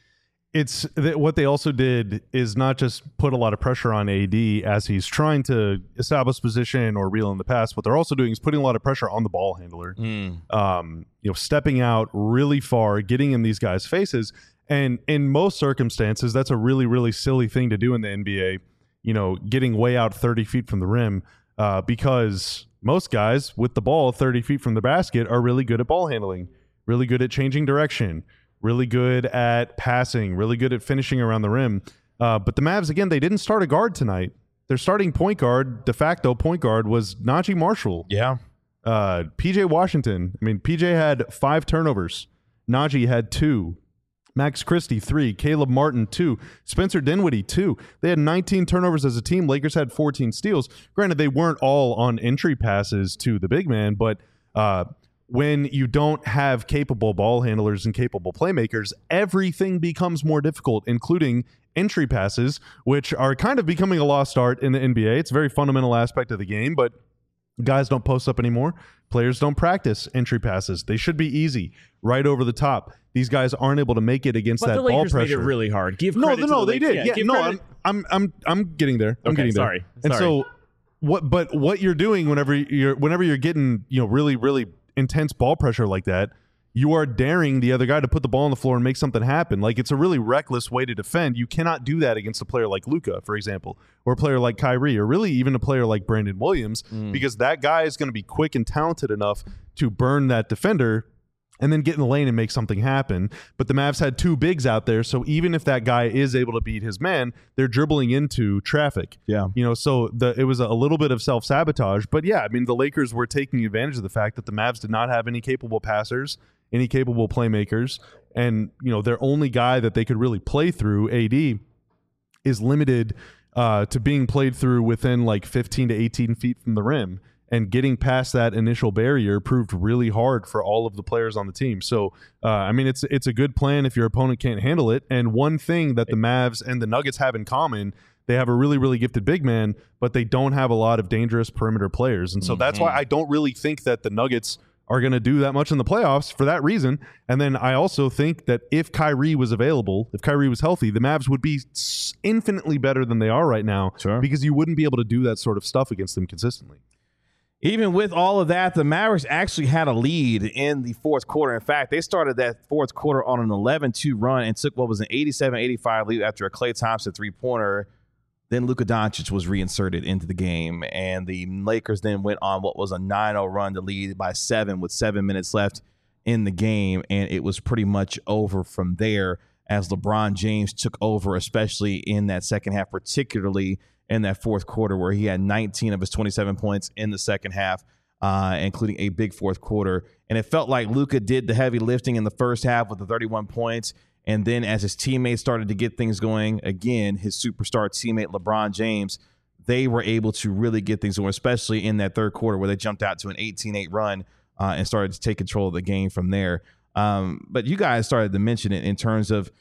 It's that what they also did is not just put a lot of pressure on A D as he's trying to establish position or reel in the pass. What they're also doing is putting a lot of pressure on the ball handler, mm. um, you know, stepping out really far, getting in these guys' faces. And in most circumstances, that's a really, really silly thing to do in the N B A, you know, getting way out thirty feet from the rim, uh, because most guys with the ball thirty feet from the basket are really good at ball handling, really good at changing direction, really good at passing, really good at finishing around the rim. Uh, but the Mavs, again, they didn't start a guard tonight. Their starting point guard, de facto point guard, was Najee Marshall. Yeah. Uh, P J Washington. I mean, P J had five turnovers. Najee had two. Max Christie, three. Caleb Martin, two. Spencer Dinwiddie, two. They had nineteen turnovers as a team. Lakers had fourteen steals. Granted, they weren't all on entry passes to the big man, but uh, when you don't have capable ball handlers and capable playmakers, everything becomes more difficult, including entry passes, which are kind of becoming a lost art in the N B A. It's a very fundamental aspect of the game, but guys don't post up anymore. Players don't practice entry passes. They should be easy, right over the top. These guys aren't able to make it against but that the ball Lakers pressure. made it really hard. Give no, credit no, to the they did. Yeah, Yeah, give no, credit. I'm, I'm, I'm, I'm getting there. I'm Okay, getting there. sorry, And sorry. so, what? But what you're doing whenever you're, whenever you're getting, you know, really, really intense ball pressure like that, you are daring the other guy to put the ball on the floor and make something happen. Like, it's a really reckless way to defend. You cannot do that against a player like Luka, for example, or a player like Kyrie, or really even a player like Brandon Williams, mm. because that guy is going to be quick and talented enough to burn that defender and then get in the lane and make something happen. But the Mavs had two bigs out there, so even if that guy is able to beat his man, they're dribbling into traffic. Yeah. You know, so the it was a little bit of self-sabotage. But yeah, I mean, the Lakers were taking advantage of the fact that the Mavs did not have any capable passers, any capable playmakers, and, you know, their only guy that they could really play through, A D, is limited uh, to being played through within like fifteen to eighteen feet from the rim. And getting past that initial barrier proved really hard for all of the players on the team. So, uh, I mean, it's it's a good plan if your opponent can't handle it. And one thing that the Mavs and the Nuggets have in common, they have a really, really gifted big man, but they don't have a lot of dangerous perimeter players. And so mm-hmm. that's why I don't really think that the Nuggets are going to do that much in the playoffs for that reason. And then I also think that if Kyrie was available, if Kyrie was healthy, the Mavs would be infinitely better than they are right now, sure. because you wouldn't be able to do that sort of stuff against them consistently. Even with all of that, the Mavericks actually had a lead in the fourth quarter. In fact, they started that fourth quarter on an eleven two run and took what was an eighty-seven eighty-five lead after a Klay Thompson three-pointer. Then Luka Doncic was reinserted into the game, and the Lakers then went on what was a nine oh run to lead by seven with seven minutes left in the game, and it was pretty much over from there as LeBron James took over, especially in that second half, particularly in that fourth quarter where he had nineteen of his twenty-seven points in the second half, uh, including a big fourth quarter. And it felt like Luka did the heavy lifting in the first half with the thirty-one points. And then as his teammates started to get things going, again, his superstar teammate LeBron James, they were able to really get things going, especially in that third quarter where they jumped out to an eighteen eight run uh, and started to take control of the game from there. Um, but you guys started to mention it in terms of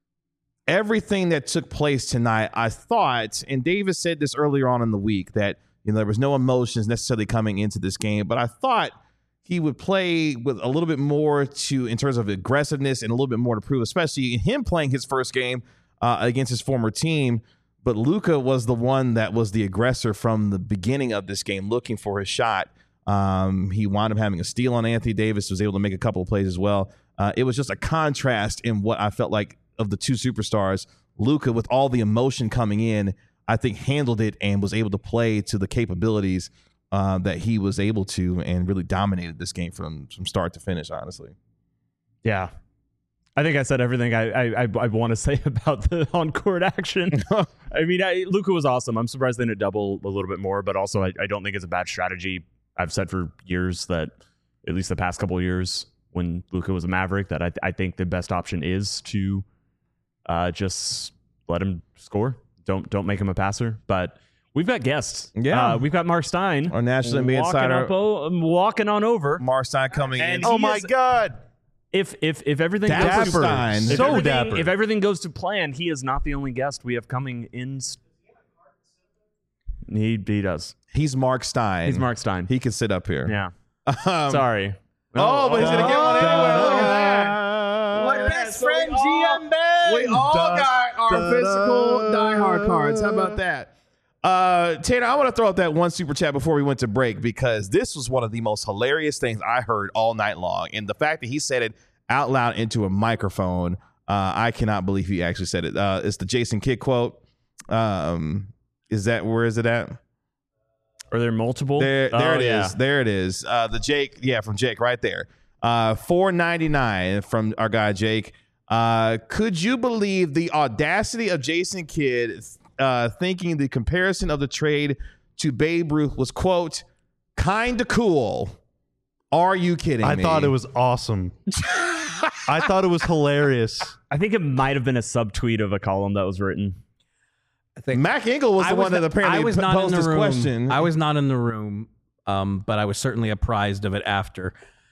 everything that took place tonight. I thought, and Davis said this earlier on in the week, that you know there was no emotions necessarily coming into this game, but I thought he would play with a little bit more to in terms of aggressiveness and a little bit more to prove, especially him playing his first game uh, against his former team. But Luka was the one that was the aggressor from the beginning of this game, looking for his shot. Um, he wound up having a steal on Anthony Davis, was able to make a couple of plays as well. Uh, it was just a contrast in what I felt like of the two superstars, Luka, with all the emotion coming in, I think handled it and was able to play to the capabilities uh, that he was able to, and really dominated this game from from start to finish. Honestly, Yeah. I think I said everything I I, I, I want to say about the on-court action. I mean, I, Luka was awesome. I'm surprised they didn't double a little bit more, but also I, I don't think it's a bad strategy. I've said for years that, at least the past couple of years, when Luka was a Maverick, that I, I think the best option is to uh, just let him score. Don't don't make him a passer. But we've got guests. Yeah. uh, we've got Mark Stein, our national N B A walking, insider, up o- walking on over. Mark Stein coming And in. he Oh my is- God. If if if everything Dapper goes to Stein. if So everything, dapper. if everything goes to plan, he is not the only guest we have coming in. He he does. He's Mark Stein. He's Mark Stein. He can sit up here. Yeah. Um, Sorry. Oh, but he's gonna get one anyway. Look at that. My My best friend G M Ben. We all got our physical diehard cards. How about that? Uh, Tanner, I want to throw out that one super chat before we went to break, because this was one of the most hilarious things I heard all night long. And the fact that he said it out loud into a microphone, uh, I cannot believe he actually said it. Uh, it's the Jason Kidd quote. Um, is that, where is it at? Are there multiple? There, there Oh, it is. yeah. There it is. Uh, the Jake, yeah, from Jake right there. Uh, four ninety-nine from our guy Jake. Uh, could you believe the audacity of Jason Kidd uh, thinking the comparison of the trade to Babe Ruth was, quote, kind of cool? Are you kidding I me? thought it was awesome. I thought it was hilarious. I think it might have been a subtweet of a column that was written. I think Mac Engel was I the was one that not- apparently I was p- not in posed the this room. question. I was not in the room, um, but I was certainly apprised of it after.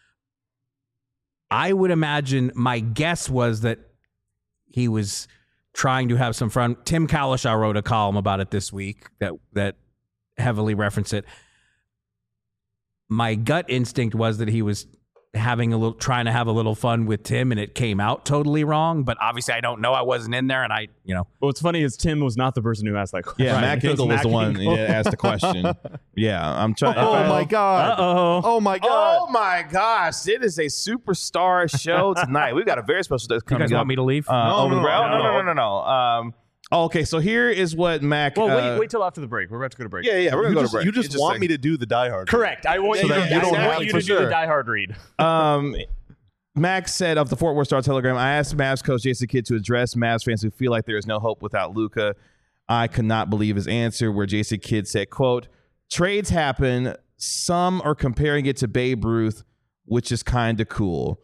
I would imagine, my guess was that he was trying to have some fun. Tim Kalishaw wrote a column about it this week that that heavily referenced it. My gut instinct was that he was having a little, trying to have a little fun with Tim, and it came out totally wrong. But obviously, I don't know. I wasn't in there, and I, you know, What's funny is Tim was not the person who asked that question. yeah, Right. Mac It Engel was Mac the one Engel. that asked the question. Yeah, I'm trying. Oh my God. Uh-oh. Oh my God. Oh my gosh! It is a superstar show tonight. We've got a very special guest you coming guys up. want me to leave? Uh, No, over the no, break. Oh, no, no, no, no, no, no. Um, oh, okay, so here is what Mac. Well, uh, wait, wait till after the break. We're about to go to break. Yeah, yeah, we're gonna You go just, to break. you just want me to do the Die Hard. Correct. I want So you to, that you I don't want have you to to do sure. the Die Hard read. Um, Max said of the Fort Worth Star Telegram, I asked Mavs coach Jason Kidd to address Mavs fans who feel like there is no hope without Luka. I could not believe his answer, where Jason Kidd said, quote, trades happen. Some are comparing it to Babe Ruth, which is kind of cool.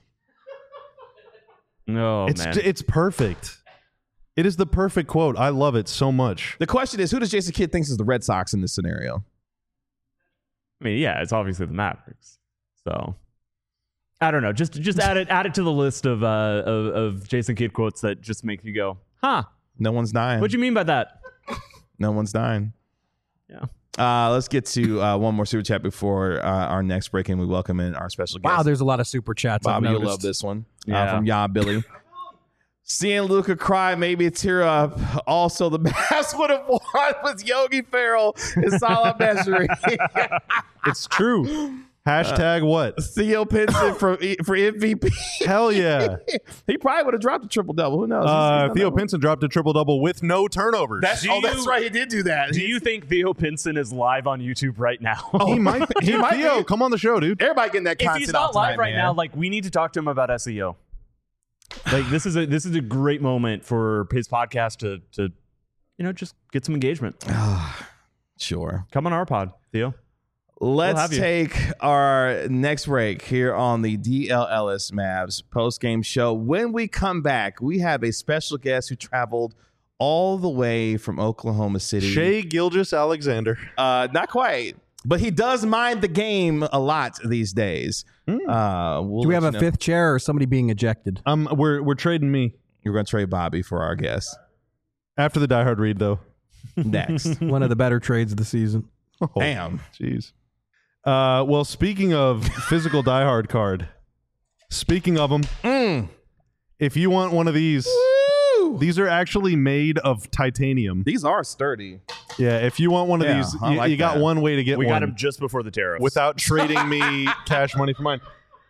No, It's man. it's perfect. It is the perfect quote. I love it so much. The question is, who does Jason Kidd think is the Red Sox in this scenario? I mean, yeah, it's obviously the Mavericks. So I don't know. Just just add it add it to the list of uh of, of Jason Kidd quotes that just make you go, huh? No one's dying. What do you mean by that? No one's dying. Yeah. Uh, let's get to uh, one more super chat before uh, our next break, and we welcome in our special guest. Wow, there's a lot of super chats. I've Bobby, you'll noticed. love this one. Uh, Yeah. from Ya Billy. Seeing Luka cry made me tear up. Also, the Mavs would have won with Yogi Ferrell and Salah Mejri. It's true. Hashtag what? Theo Pinson for for M V P. Hell yeah. He probably would have dropped a triple double. Who knows? He's- he's Uh, done Theo that one. Pinson dropped a triple double with no turnovers. That's, Do oh, that's you- right. He did do that. Do you think Theo Pinson is live on YouTube right now? he might. He Dude, might Theo, be. come on the show, dude. Everybody getting that if content he's not out live tonight, right man. now, like we need to talk to him about S E O. Like this is a this is a great moment for his podcast to to you know just get some engagement. Sure. Come on our pod, Theo. Let's have you. take our next break here on the D L Ellis Mavs post-game show. When we come back, we have a special guest who traveled all the way from Oklahoma City. Shea Gilgeous Alexander. Uh, not quite, but he does mind the game a lot these days. Uh, we'll Do we let have you a know. fifth chair or somebody being ejected? Um, we're we're trading me You're going to trade Bobby for our guest after the Die Hard read though. next. One of the better trades of the season. Oh, Damn. jeez. Uh, well, speaking of physical Die Hard card, speaking of them, Mm. if you want one of these, Woo! these are actually made of titanium. These are sturdy. Yeah, if you want one of Yeah, these, I you, like you got that. one way to get We one got him just before the tariffs. without trading me cash money for mine.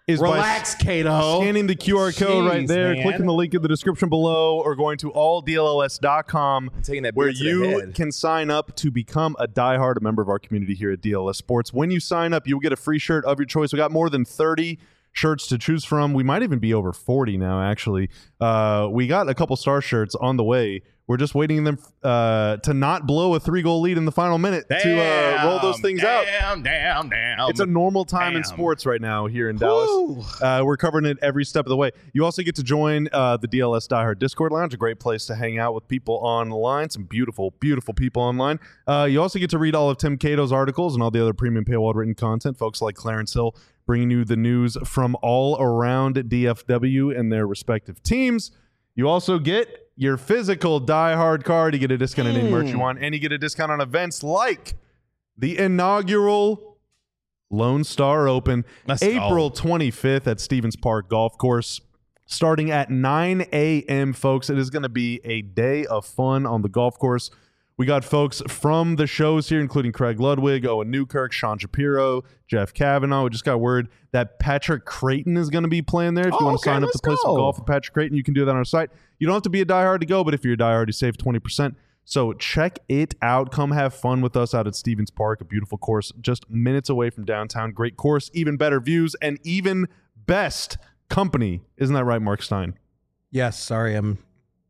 is Relax, by Cato. scanning the Q R code right Jeez, there, man. clicking the link in the description below, or going to all D L L S dot com, Taking that where beer to the you head. can sign up to become a diehard member of our community here at D L S Sports. When you sign up, you'll get a free shirt of your choice. We got more than thirty shirts to choose from. We might even be over forty now, actually. Uh, we got a couple star shirts on the way. We're just waiting them uh, to not blow a three-goal lead in the final minute to uh, roll those things out. Damn, damn, damn. It's a normal time in Damn. sports right now here in Dallas. Uh, we're covering it every step of the way. You also get to join uh, the D L S Die Hard Discord Lounge, a great place to hang out with people online, some beautiful, beautiful people online. Uh, you also get to read all of Tim Cato's articles and all the other premium paywall written content. Folks like Clarence Hill bringing you the news from all around D F W and their respective teams. You also get your physical Die Hard card. You get a discount on any merch you want, and you get a discount on events like the inaugural Lone Star Open, Let's April go. twenty-fifth at Stevens Park Golf Course, starting at nine a.m., folks. It is going to be a day of fun on the golf course. We got folks from the shows here, including Craig Ludwig, Owen Newkirk, Sean Shapiro, Jeff Kavanaugh. We just got word that Patrick Creighton is going to be playing there. If you Oh, want to okay, sign up let's to play some go. golf with Patrick Creighton, you can do that on our site. You don't have to be a diehard to go, but if you're a diehard, you save twenty percent. So check it out. Come have fun with us out at Stevens Park, a beautiful course just minutes away from downtown. Great course, even better views, and even best company. Isn't that right, Mark Stein? Yes, sorry, I'm.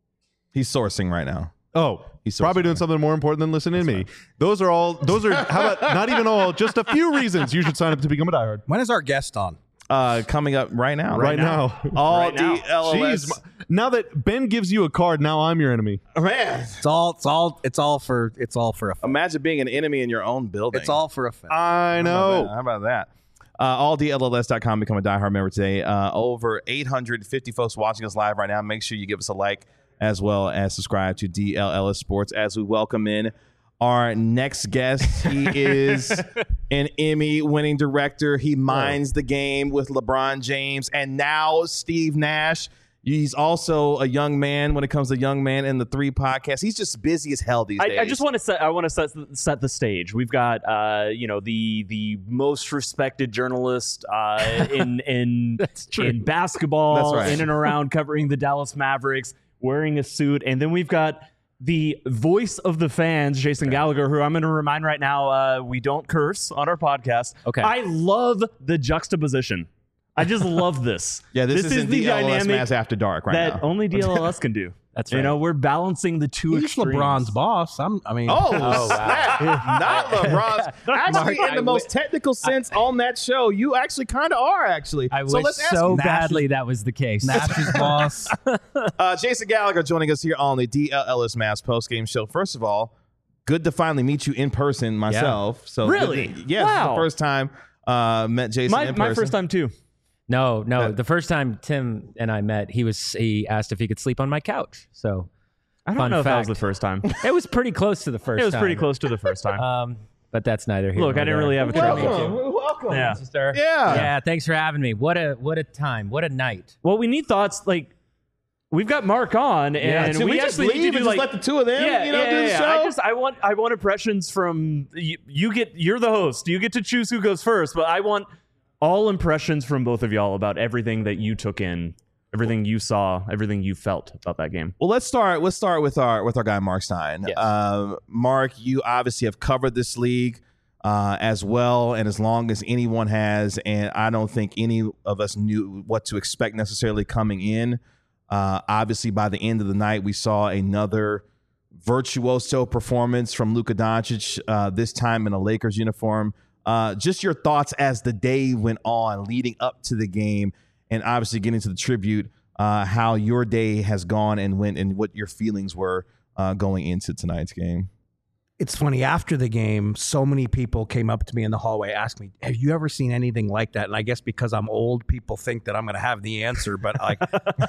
He's sourcing right now. Oh, He's so probably sorry. doing something more important than listening to me. Those are all, those are, how about not even all, just a few reasons you should sign up to become a diehard. When is our guest on? Uh, coming up right now. Right, now. All Right now. D L L S. Jeez, now that Ben gives you a card, now I'm your enemy. Man, It's all. It's all. It's all for. It's all for a. imagine being an enemy in your own building. It's all for a. Fact. I How about know. that? How about that? Uh, all D L L S dot com. Become a diehard member today. Uh, over eight hundred fifty folks watching us live right now. Make sure you give us a like as well as subscribe to D L L S Sports as we welcome in our next guest. He is an Emmy-winning director. He minds the game with LeBron James and now Steve Nash. He's also a young man when it comes to Young Man in the Three podcast. He's just busy as hell these days. I, I just want to set. I want to set set the stage. We've got, uh, you know, the the most respected journalist uh, in in in basketball, That's right. in and around covering the Dallas Mavericks, wearing a suit, and then we've got the voice of the fans, Jason Gallagher, who I'm going to remind right now, uh, we don't curse on our podcast. Okay. I love the juxtaposition. I just love this. Yeah, this, is isn't the D L L S dynamic Mass After Dark right that now. only D L L S can do. That's You right. know, we're balancing the two He's extremes. LeBron's boss. I'm. I mean. Oh, snap. Not LeBron's. Actually, Mark, in the I most wi- technical sense on that show, you actually kind of are, actually. I so wish let's ask so you, badly that was the case. Nash's boss. uh, Jason Gallagher joining us here on the D L L S Mass postgame show. First of all, good to finally meet you in person myself. So Really? good to- yeah, this is Wow. the first time uh, met Jason My, in person. my first time too. No, no. Uh, the first time Tim and I met, he was he asked if he could sleep on my couch. So I don't Fun know if that was fact. the first time. it was pretty close to the first. It was time. pretty close to the first time. Um, but that's neither here. Look, nor I didn't there. really have a Welcome. trophy. Welcome. Welcome. Yeah. Sister. Yeah. Yeah. Thanks for having me. What a what a time. What a night. Well, we need thoughts. Like, we've got Mark on, and Should we, we, just actually leave need to and do just like let the two of them, yeah, you know, yeah, do the yeah. show? I just I want I want impressions from you, you. Get you're the host. You get to choose who goes first, but I want all impressions from both of y'all about everything that you took in, everything you saw, everything you felt about that game. Well, let's start. Let's start with our with our guy Mark Stein. Yes. Um, Mark, you obviously have covered this league uh, as well and as long as anyone has, and I don't think any of us knew what to expect necessarily coming in. Uh, obviously, by the end of the night, we saw another virtuoso performance from Luka Doncic. Uh, this time in a Lakers uniform. Uh, just your thoughts as the day went on, leading up to the game, and obviously getting to the tribute. Uh, how your day has gone and went, and what your feelings were uh, going into tonight's game. It's funny, after the game, so many people came up to me in the hallway, asked me, have you ever seen anything like that? And I guess because I'm old, people think that I'm going to have the answer, but like,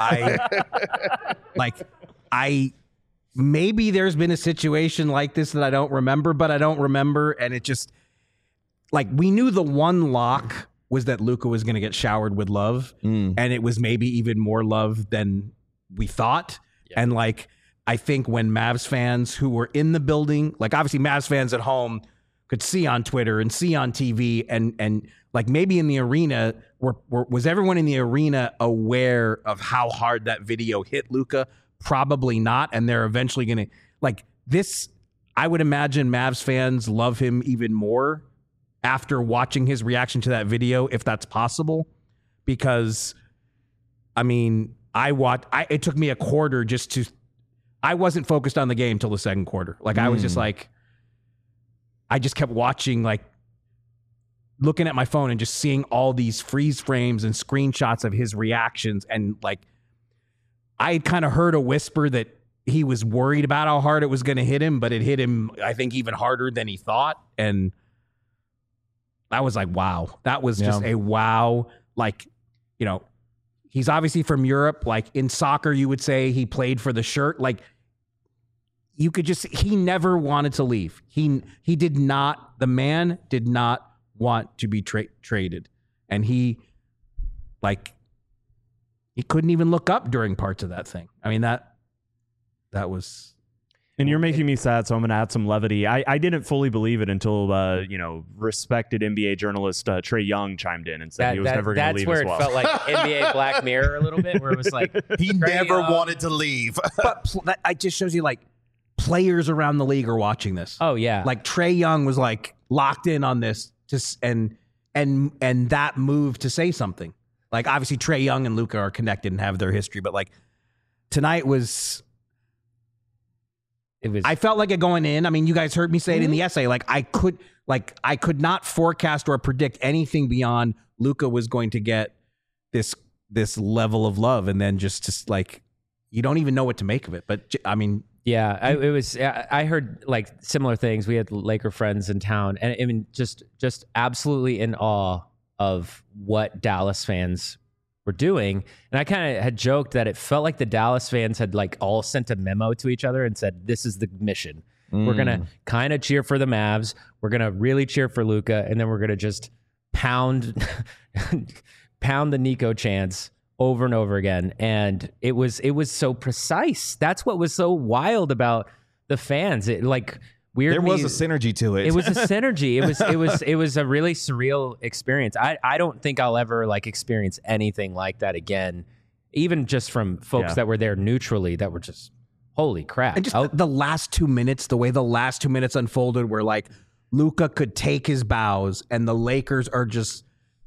I, like, I, maybe there's been a situation like this that I don't remember, but I don't remember. And it just, like, we knew the one lock was that Luka was going to get showered with love. Mm. And it was maybe even more love than we thought. Yeah. And like, I think when Mavs fans who were in the building, like obviously Mavs fans at home, could see on Twitter and see on T V, and and like maybe in the arena, were, were, was everyone in the arena aware of how hard that video hit Luka? Probably not, and they're eventually going to like this. I would imagine Mavs fans love him even more after watching his reaction to that video, if that's possible, because I mean, I watched. I, it took me a quarter just to. I wasn't focused on the game till the second quarter. Like mm. I was just like. I just kept watching, like looking at my phone and just seeing all these freeze frames and screenshots of his reactions. And like, I had kind of heard a whisper that he was worried about how hard it was going to hit him, but it hit him, I think, even harder than he thought. And I was like, wow, that was just yeah. a wow. Like, you know, he's obviously from Europe. Like in soccer, you would say he played for the shirt. Like, you could just, he never wanted to leave. He he did not, the man did not want to be tra- traded. And he, like, he couldn't even look up during parts of that thing. I mean, that, that was. And you're making me sad, so I'm going to add some levity. I, I didn't fully believe it until, uh, you know, respected N B A journalist uh, Trae Young chimed in and said that, he was that, never going to leave That's as where well. it felt like N B A Black Mirror a little bit, where it was like. He Trae never Young. wanted to leave. But pl- that it just shows you, like, players around the league are watching this. Oh yeah, like Trae Young was like locked in on this, just and and and that move to say something. Like obviously Trae Young and Luka are connected and have their history, but like tonight was. It was. I felt like it going in. I mean, you guys heard me say it in the essay. Like I could, like I could not forecast or predict anything beyond Luka was going to get this this level of love, and then just just like you don't even know what to make of it. But I mean. Yeah, I, it was. I heard like similar things. We had Laker friends in town, and I mean, just just absolutely in awe of what Dallas fans were doing. And I kind of had joked that it felt like the Dallas fans had like all sent a memo to each other and said, "This is the mission. Mm. We're gonna kind of cheer for the Mavs. We're gonna really cheer for Luka, and then we're gonna just pound pound the Nico chants." Over and over again, and it was it was so precise. That's what was so wild about the fans. It like weirdly, there was a synergy to it. It was a synergy. It was it was it was a really surreal experience. I I don't think I'll ever like experience anything like that again, even just from folks Yeah. that were there neutrally. That were just holy crap. And just Oh, the, the last two minutes, the way the last two minutes unfolded, where like Luka could take his bows, and the Lakers are just.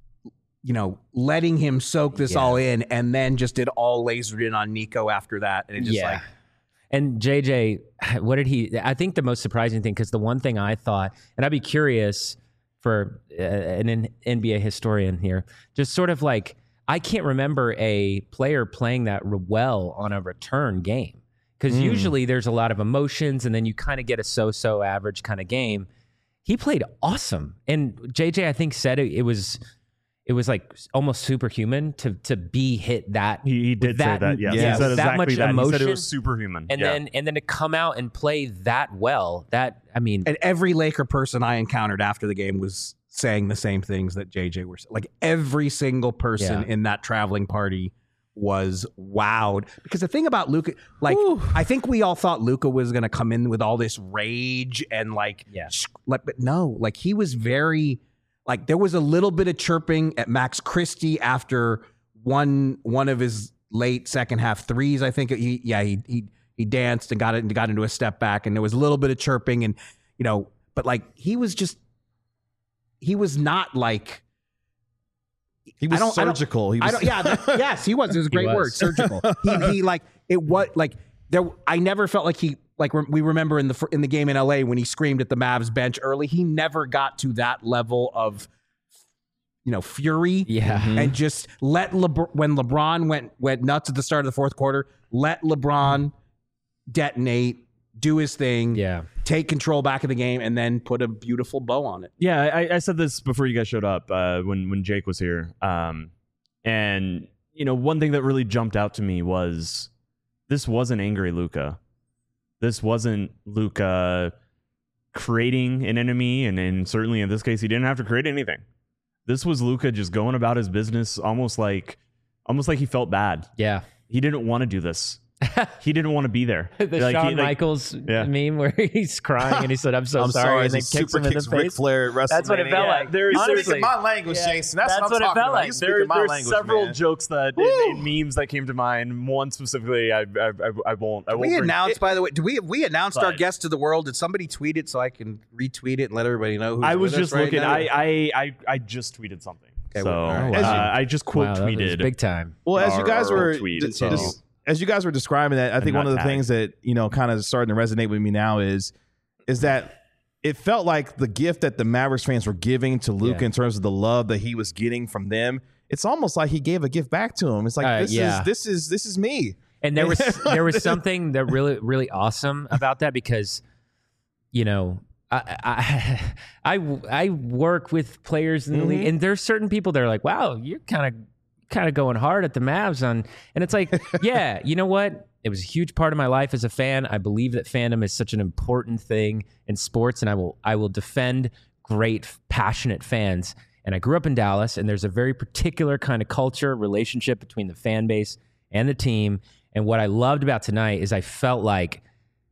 You know, letting him soak this Yeah. all in, and then just did all lasered in on Nico after that. And it just yeah. like, And J J, what did he? I think the most surprising thing, because the one thing I thought, and I'd be curious for uh, an N B A historian here, just sort of like, I can't remember a player playing that well on a return game. Because mm. usually there's a lot of emotions, and then you kind of get a so-so average kind of game. He played awesome. And J J, I think, said it, it was... It was like almost superhuman to to be hit that. He, he did that, say that. Yes, yeah, he said that exactly much that. emotion. He said it was superhuman. And yeah. then and then to come out and play that well. That I mean, and every Laker person I encountered after the game was saying the same things that J J were saying. Like every single person Yeah. in that traveling party was wowed. Because the thing about Luka, like Ooh. I think we all thought Luka was going to come in with all this rage and like, Yeah. sh- like, but no, like he was very. Like there was a little bit of chirping at Max Christie after one one of his late second half threes. I think he yeah he he he danced and got it and got into a step back, and there was a little bit of chirping, and you know, but like he was just he was not like he was I don't, surgical. I he don't, was I don't, yeah, that, yes, he was. It was a great was. word, surgical. He he like it was like there. I never felt like he. Like we remember in the in the game in L A when he screamed at the Mavs bench early, he never got to that level of, you know, fury. Yeah. Mm-hmm. And just let LeBron, when LeBron went went nuts at the start of the fourth quarter, let LeBron detonate, do his thing, yeah. take control back of the game, and then put a beautiful bow on it. Yeah, I, I said this before you guys showed up uh, when when Jake was here, um, and you know, one thing that really jumped out to me was this wasn't angry Luka. This wasn't Luka creating an enemy, and, and certainly in this case, he didn't have to create anything. This was Luka just going about his business, almost like, almost like he felt bad. Yeah. He didn't want to do this. he didn't want to be there. The Like, Shawn he- like, Michaels yeah. meme where he's crying and he said, "I'm so I'm sorry," sorry. and then he kicks super him in the kicks Ric face. Flair at That's what it WrestleMania. felt Yeah, like. there's- You Honestly. speaking my language, Yeah. Jason. That's, That's what I'm what it talking felt about. like. You speaking There, my there's language, several man. jokes that in, in memes that came to mind. One specifically, I I, I, I won't. I won't. We bring- announced, by the way, do we we announced our But- guest to the world? Did somebody tweet it so I can retweet it and let everybody know who's I was with us just right looking. now? I, I I I just tweeted something. Okay, so well, all right. uh, As you- I just quote Wow, that was tweeted. big time. Well, as you our- guys our were tweet, d- so- dis- as you guys were describing that, I think And one not of the tag. things that you know kind of starting to resonate with me now is is that it felt like the gift that the Mavericks fans were giving to Luka Yeah. in terms of the love that he was getting from them. It's almost like he gave a gift back to him. It's like Uh, this yeah. is this is this is me. And there was there was something that really really awesome about that because, you know, I I I, I work with players in the league, and there's certain people that are like, wow, you're kind of kind of going hard at the Mavs on, and it's like, yeah, you know what? It was a huge part of my life as a fan. I believe that fandom is such an important thing in sports, and I will I will defend great, passionate fans. And I grew up in Dallas, and there's a very particular kind of culture, relationship between the fan base and the team. And what I loved about tonight is I felt like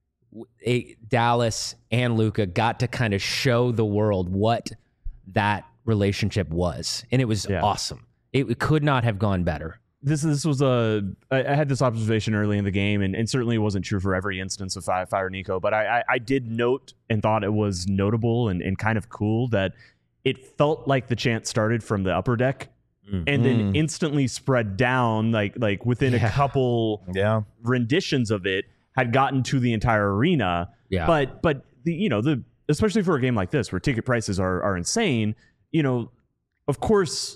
a, Dallas and Luka got to kind of show the world what that relationship was, and it was Yeah. awesome. It, it could not have gone better. This this was a I I had this observation early in the game, and, and certainly it wasn't true for every instance of Fire, Fire Nico, but I, I I did note and thought it was notable and, and kind of cool that it felt like the chant started from the upper deck Mm. and then Mm. instantly spread down like like within Yeah. a couple Yeah. renditions of it had gotten to the entire arena. Yeah. But but the you know the especially for a game like this where ticket prices are are insane, you know, of course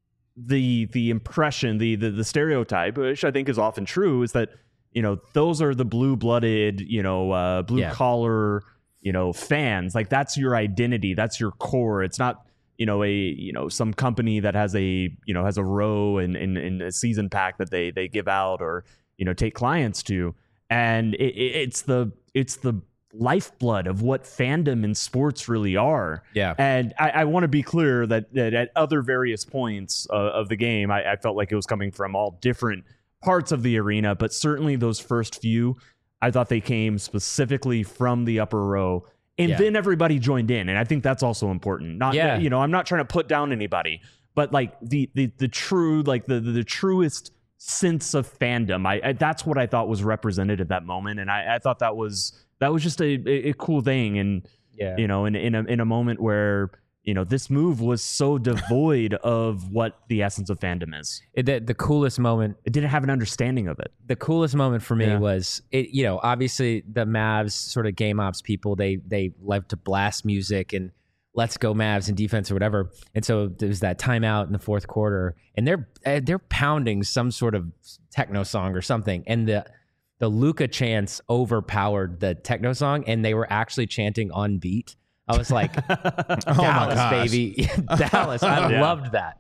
the the impression, the the the stereotype, which I think is often true, is that, you know, those are the blue-blooded, you know, uh blue Yeah. collar, you know, fans. Like that's your identity, that's your core. It's not, you know, a you know some company that has a you know has a row and in, in, in a season pack that they they give out or you know take clients to, and it, it, it's the it's the lifeblood of what fandom and sports really are. Yeah. And I, I want to be clear that, that at other various points uh, of the game, I, I felt like it was coming from all different parts of the arena, but certainly those first few, I thought they came specifically from the upper row. And Yeah. then everybody joined in, and I think that's also important. Not, Yeah. you know, I'm not trying to put down anybody, but like the the the true, like the the, the truest sense of fandom. I, I that's what I thought was represented at that moment, and I, I thought that was that was just a, a, a cool thing. And Yeah. you know, in in a in a moment where you know this move was so devoid of what the essence of fandom is. It- the, the coolest moment It didn't have an understanding of it. the coolest moment for me Yeah. was it, you know, obviously the Mavs sort of game ops people, they they love to blast music and let's go Mavs and defense or whatever. And so there's that timeout in the fourth quarter and they're uh, they're pounding some sort of techno song or something. And the the Luka chants overpowered the techno song and they were actually chanting on beat. I was like, Dallas, gosh. baby. Dallas. I Yeah. loved that.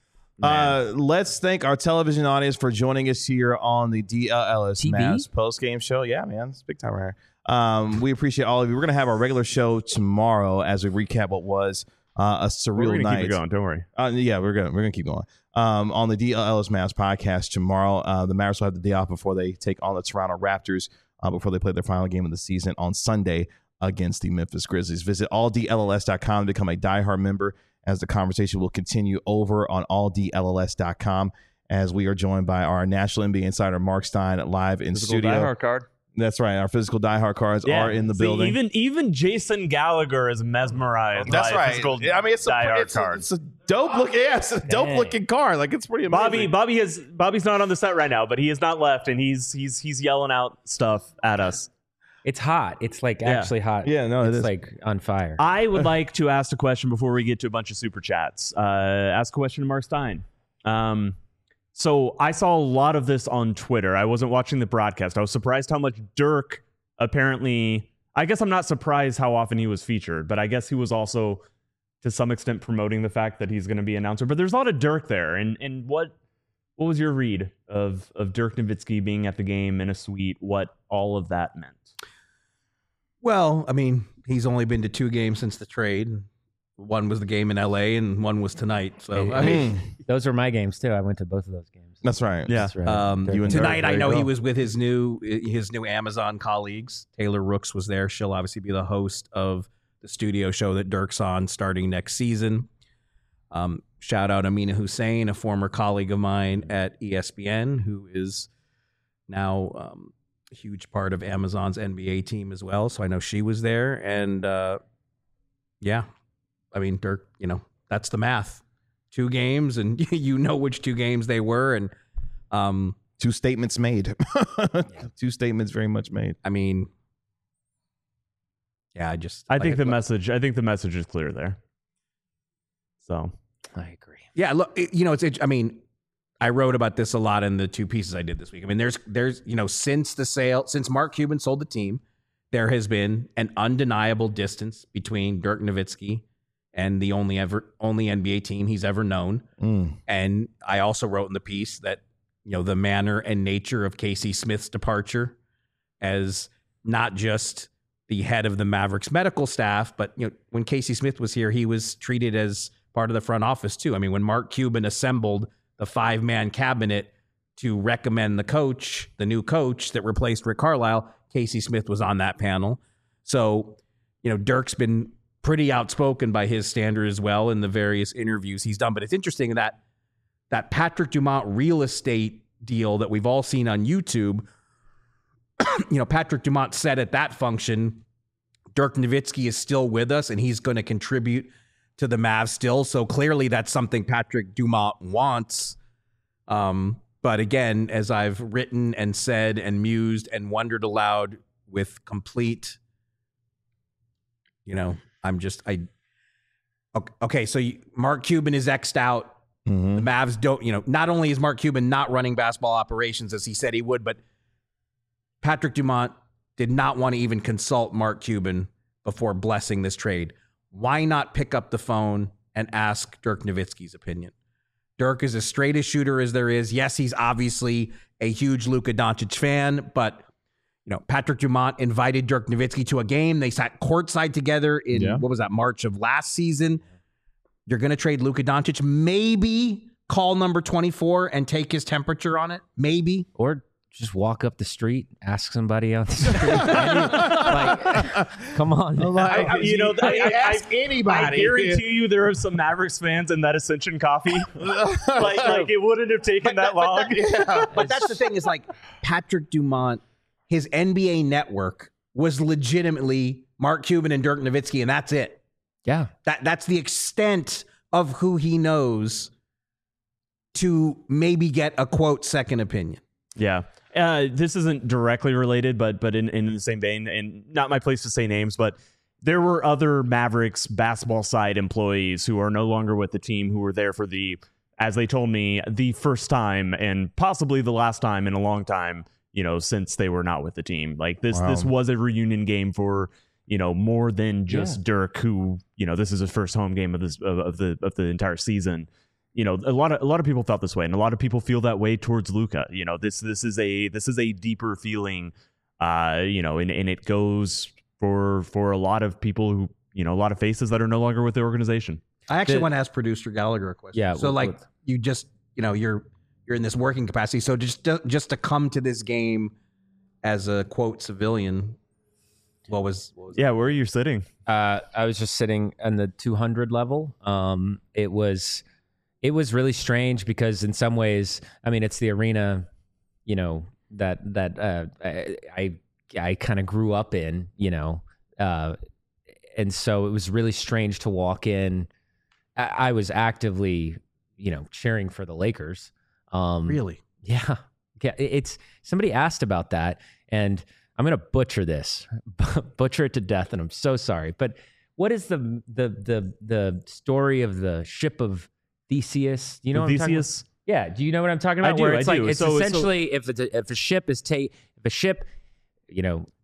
Uh, let's thank our television audience for joining us here on the D L L S T V? Mavs post game show. Yeah, man, it's big time right here. Um, we appreciate all of you. We're gonna have our regular show tomorrow as we recap what was uh, a surreal We're gonna night. keep it going. Don't worry. Uh, yeah, we're gonna we're gonna keep going. Um, on the D L L S Mavs podcast tomorrow, uh, the Mavericks will have the day off before they take on the Toronto Raptors uh, before they play their final game of the season on Sunday against the Memphis Grizzlies. Visit all D L L S dot com to become a diehard member as the conversation will continue over on all D L L S dot com as we are joined by our National N B A insider Mark Stein live in Physical studio. diehard card. That's right. Our physical diehard cards are in the See, building. Even even Jason Gallagher is mesmerized. That's by right. Physical I mean, it's a, diehard it's, a, card. it's a dope look. Yeah, it's a dope Dang. looking card. Like it's pretty amazing. Bobby, Bobby has Bobby's not on the set right now, but he has not left, and he's he's he's yelling out stuff at us. It's hot. It's like Yeah. actually hot. Yeah, no, it it's is. like on fire. I would like to ask a question before we get to a bunch of super chats. Uh, ask a question to Mark Stein. Um, so I saw a lot of this on Twitter. I wasn't watching the broadcast. I was surprised how much Dirk apparently. I guess I'm not surprised how often he was featured, but I guess he was also to some extent promoting the fact that he's going to be announcer. But there's a lot of Dirk there, and and what what was your read of of Dirk Nowitzki being at the game in a suite? What all of that meant? Well, I mean, he's only been to two games since the trade. One was the game in L A and one was tonight. So, I mean, Those were my games too. I went to both of those games. That's right. Yeah. That's right. Um, You and Dirk, tonight, there I you know go. he was with his new his new Amazon colleagues. Taylor Rooks was there. She'll obviously be the host of the studio show that Dirk's on starting next season. Um, shout out Amina Hussein, a former colleague of mine at E S P N, who is now um, a huge part of Amazon's N B A team as well. So I know she was there, and uh, yeah, I mean Dirk, you know that's the math. Two games, and you know which two games they were, and um, Two statements made. Two statements very much made. I mean, yeah, I just I like think it- the message. I think the message is clear there. So I agree. Yeah, look, it- you know, it's. It, I mean, I wrote about this a lot in the two pieces I did this week. I mean, there's, there's, you know, since the sale, since Mark Cuban sold the team, there has been an undeniable distance between Dirk Nowitzki and the only ever, only N B A team he's ever known. Mm. And I also wrote in the piece that, you know, the manner and nature of Casey Smith's departure as not just the head of the Mavericks medical staff, but, you know, when Casey Smith was here, he was treated as part of the front office too. I mean, when Mark Cuban assembled the five-man cabinet to recommend the coach, the new coach that replaced Rick Carlisle, Casey Smith was on that panel. So, you know, Dirk's been pretty outspoken by his standard as well in the various interviews he's done. But it's interesting that that Patrick Dumont real estate deal that we've all seen on YouTube, you know, Patrick Dumont said at that function, Dirk Nowitzki is still with us and he's going to contribute to the Mavs still. So clearly that's something Patrick Dumont wants. Um, but again, as I've written and said and mused and wondered aloud with complete, you know, I'm just, I, okay, so you, Mark Cuban is X'd out. Mm-hmm. The Mavs don't, you know, not only is Mark Cuban not running basketball operations as he said he would, but Patrick Dumont did not want to even consult Mark Cuban before blessing this trade. Why not pick up the phone and ask Dirk Nowitzki's opinion? Dirk is as straight a shooter as there is. Yes, he's obviously a huge Luka Doncic fan, but you know, Patrick Dumont invited Dirk Nowitzki to a game. They sat courtside together in, Yeah. what was that, March of last season. You're going to trade Luka Doncic, maybe call number twenty-four and take his temperature on it, maybe. Or just walk up the street, ask somebody on the street. like, come on. I, I- you know, I, I, ask I, anybody. I guarantee you there are some Mavericks fans in that Ascension coffee. like, like it wouldn't have taken that long. But that's the thing is like Patrick Dumont, his N B A network was legitimately Mark Cuban and Dirk Nowitzki, and that's it. Yeah. That that's the extent of who he knows to maybe get a quote second opinion. Yeah. Uh, this isn't directly related, but but in, in the same vein, and not my place to say names, but there were other Mavericks basketball side employees who are no longer with the team who were there for the, as they told me, the first time and possibly the last time in a long time, you know, since they were not with the team. Like this, Wow. this was a reunion game for, you know, more than just Yeah. Dirk, who, you know, this is his first home game of this of, of the of the entire season. You know, a lot of a lot of people felt this way, and a lot of people feel that way towards Luka. You know, this this is a this is a deeper feeling, uh, you know, and, and it goes for for a lot of people who, you know, a lot of faces that are no longer with the organization. I actually The- want to ask producer Gallagher a question. Yeah, So what- like what- you just, you know, you're you're in this working capacity. So just just to come to this game as a quote civilian, what was what was Yeah, where are you sitting? Uh, I was just sitting on the two hundred level. Um, it was, it was really strange because in some ways, I mean, it's the arena, you know, that that uh, I I, I kind of grew up in, you know, uh, and so it was really strange to walk in. I, I was actively, you know, cheering for the Lakers. Um, really? Yeah. Yeah. it- It's somebody asked about that, and I'm going to butcher this, butcher it to death. And I'm so sorry. But what is the, the, the, the story of the ship of Theseus? Do you know what I'm talking about? Theseus? Yeah. Do you know what I'm talking I about? do, Where I it's like, do. it's So- so- essentially if it's a, if a ship is take, if a ship, you know,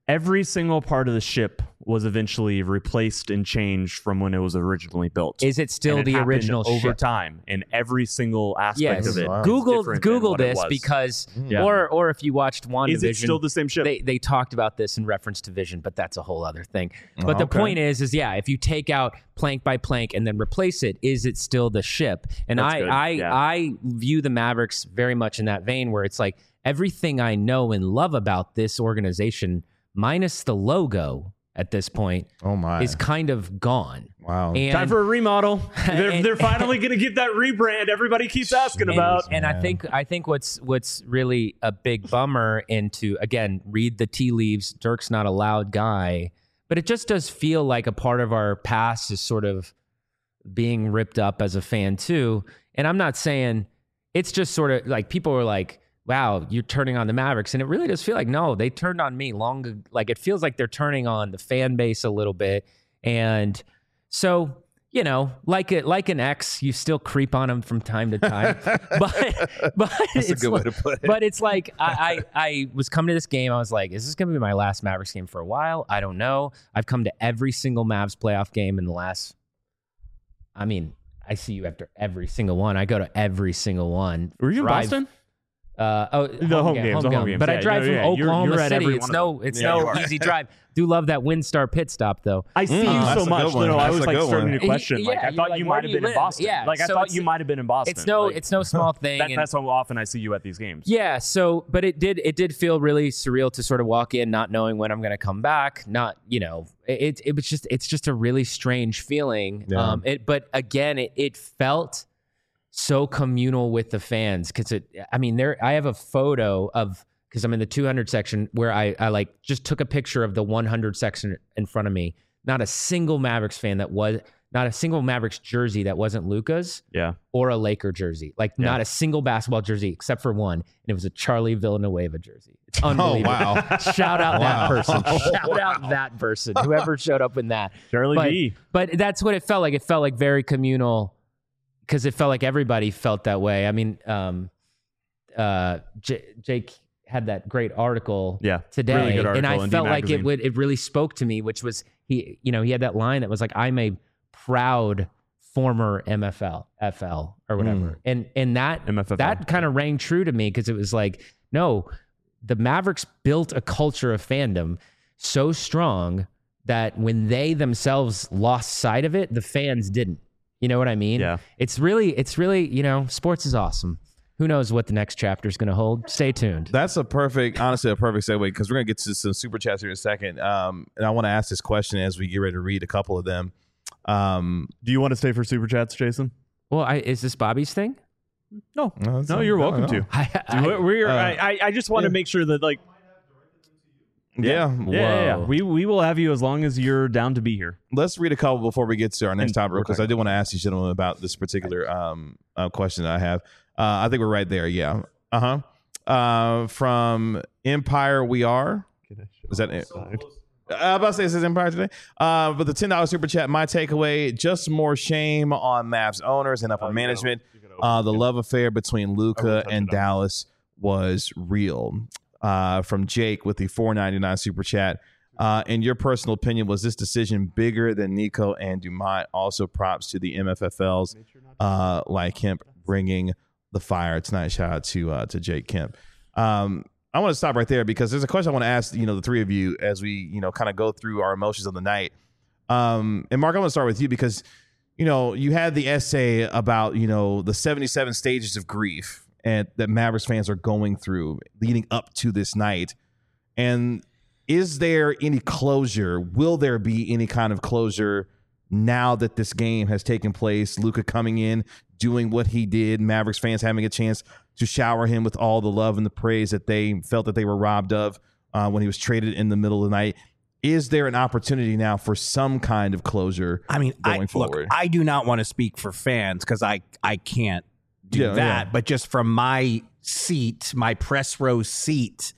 every single part of the ship was eventually replaced and changed from when it was originally built. Is it still And it the happened original over ship? time in every single aspect Yes. of it? Wow. is Google different than Google what it this was. because, Yeah. or or if you watched WandaVision, Is it still the same ship? They they talked about this in reference to Vision, but that's a whole other thing. Oh, But the okay. point is, is yeah, if you take out plank by plank and then replace it, is it still the ship? And That's I good, I yeah. I view the Mavericks very much in that vein, where it's like everything I know and love about this organization, minus the logo at this point, Oh my! is kind of gone. Wow. And Time for a remodel. They're, And- they're finally going to get that rebrand everybody keeps asking and, about. and I man. think I think what's what's really a big bummer, and to again read the tea leaves, Dirk's not a loud guy, but it just does feel like a part of our past is sort of being ripped up as a fan too. And I'm not saying it's just sort of like people were like, wow, you're turning on the Mavericks. And it really does feel like, no, they turned on me long. Like it feels like they're turning on the fan base a little bit. And so, you know, like it, like an ex, you still creep on them from time to time. but but That's a it's good way like- to put it. But it's like I, I I was coming to this game. I was like, is this going to be my last Mavericks game for a while? I don't know. I've come to every single Mavs playoff game in the last. I mean, I see you after every single one. I go to every single one. Were you in Drive- Boston? Uh, oh, The home games, the home games. But I Yeah, drive no, from yeah, you're- Oklahoma you're at City. every It's one of no, them. it's Yeah, you no are. easy drive. Do love that Windstar pit stop though. I see Mm, you that's so a much. good No, one. no, I That's was a like good starting one. to question. Yeah, like I you're thought like, you where might do have you been in live? Boston. Yeah, like I so thought it's- you might have been in Boston. It's no, Like, it's no small thing. that, and- that's how often I see you at these games. Yeah, so but it did it did feel really surreal to sort of walk in not knowing when I'm going to come back, not, you know, it it was just it's just a really strange feeling. Yeah. Um it but again it it felt so communal with the fans cuz it I mean there I have a photo of cuz I'm in the two hundred section where I I like just took a picture of the one hundred section in front of me. Not a single Mavericks fan that was not a single Mavericks jersey that wasn't Luka's Yeah. or a Laker jersey. Like Yeah. not a single basketball jersey except for one. And it was a Charlie Villanueva jersey. It's unbelievable. Oh, wow. Shout out Wow. that person. Shout out that person. Whoever showed up in that. Charlie But, B. but that's what it felt like. It felt like very communal because it felt like everybody felt that way. I mean, um, uh, J- Jake had that great article Yeah, today, really good and I article in D felt like it Magazine. would it really spoke to me, which was he, you know, he had that line that was like, "I'm a proud former M F L, F L, or whatever," and and that M F F L. that kind of rang true to me because it was like, no, the Mavericks built a culture of fandom so strong that when they themselves lost sight of it, the fans didn't. You know what I mean? Yeah. It's really, it's really, you know, sports is awesome. Who knows what the next chapter is going to hold? Stay tuned. That's a perfect, honestly, a perfect segue because we're gonna get to some super chats here in a second. Um, and I want to ask this question as we get ready to read a couple of them. Um, Do you want to stay for super chats, Jason? Well, I, is this Bobby's thing? No, no, it's no, not- you're no, welcome no. to. I, I, We're, we're, uh, I, I- I just want to yeah. make sure that like yeah, yeah, yeah, yeah. Whoa. we we will have you as long as you're down to be here. Let's read a couple before we get to our next And topic we're because I did want to ask you gentlemen about this particular um, uh, question that I have. Uh, I think we're right there. Yeah. Uh-huh. Uh From Empire We Are. Is that it? Uh, I'm about to say it says Empire today. Uh, but the ten dollars super chat, my takeaway, just more shame on Mavs owners and upper management. Uh, the love affair between Luka and Dallas was real. Uh, from Jake with the four ninety-nine super chat. Uh, in your personal opinion, was this decision bigger than Nico and Dumont? Also, props to the M F F Ls uh, like Kemp bringing the fire tonight. Shout out to uh, to Jake Kemp. Um, I want to stop right there because there's a question I want to ask, you know, the three of you as we, you know, kind of go through our emotions of the night. Um, and Mark, I want to start with you because, you know, you had the essay about, you know, the seventy-seven stages of grief and that Mavericks fans are going through leading up to this night. And is there any closure? Will there be any kind of closure now that this game has taken place? Luka coming in, doing what he did, Mavericks fans having a chance to shower him with all the love and the praise that they felt that they were robbed of uh, when he was traded in the middle of the night. Is there an opportunity now for some kind of closure? I mean, going I, forward? look, I do not want to speak for fans because I, I can't do Yeah, that. yeah. But just from my seat, my press row seat,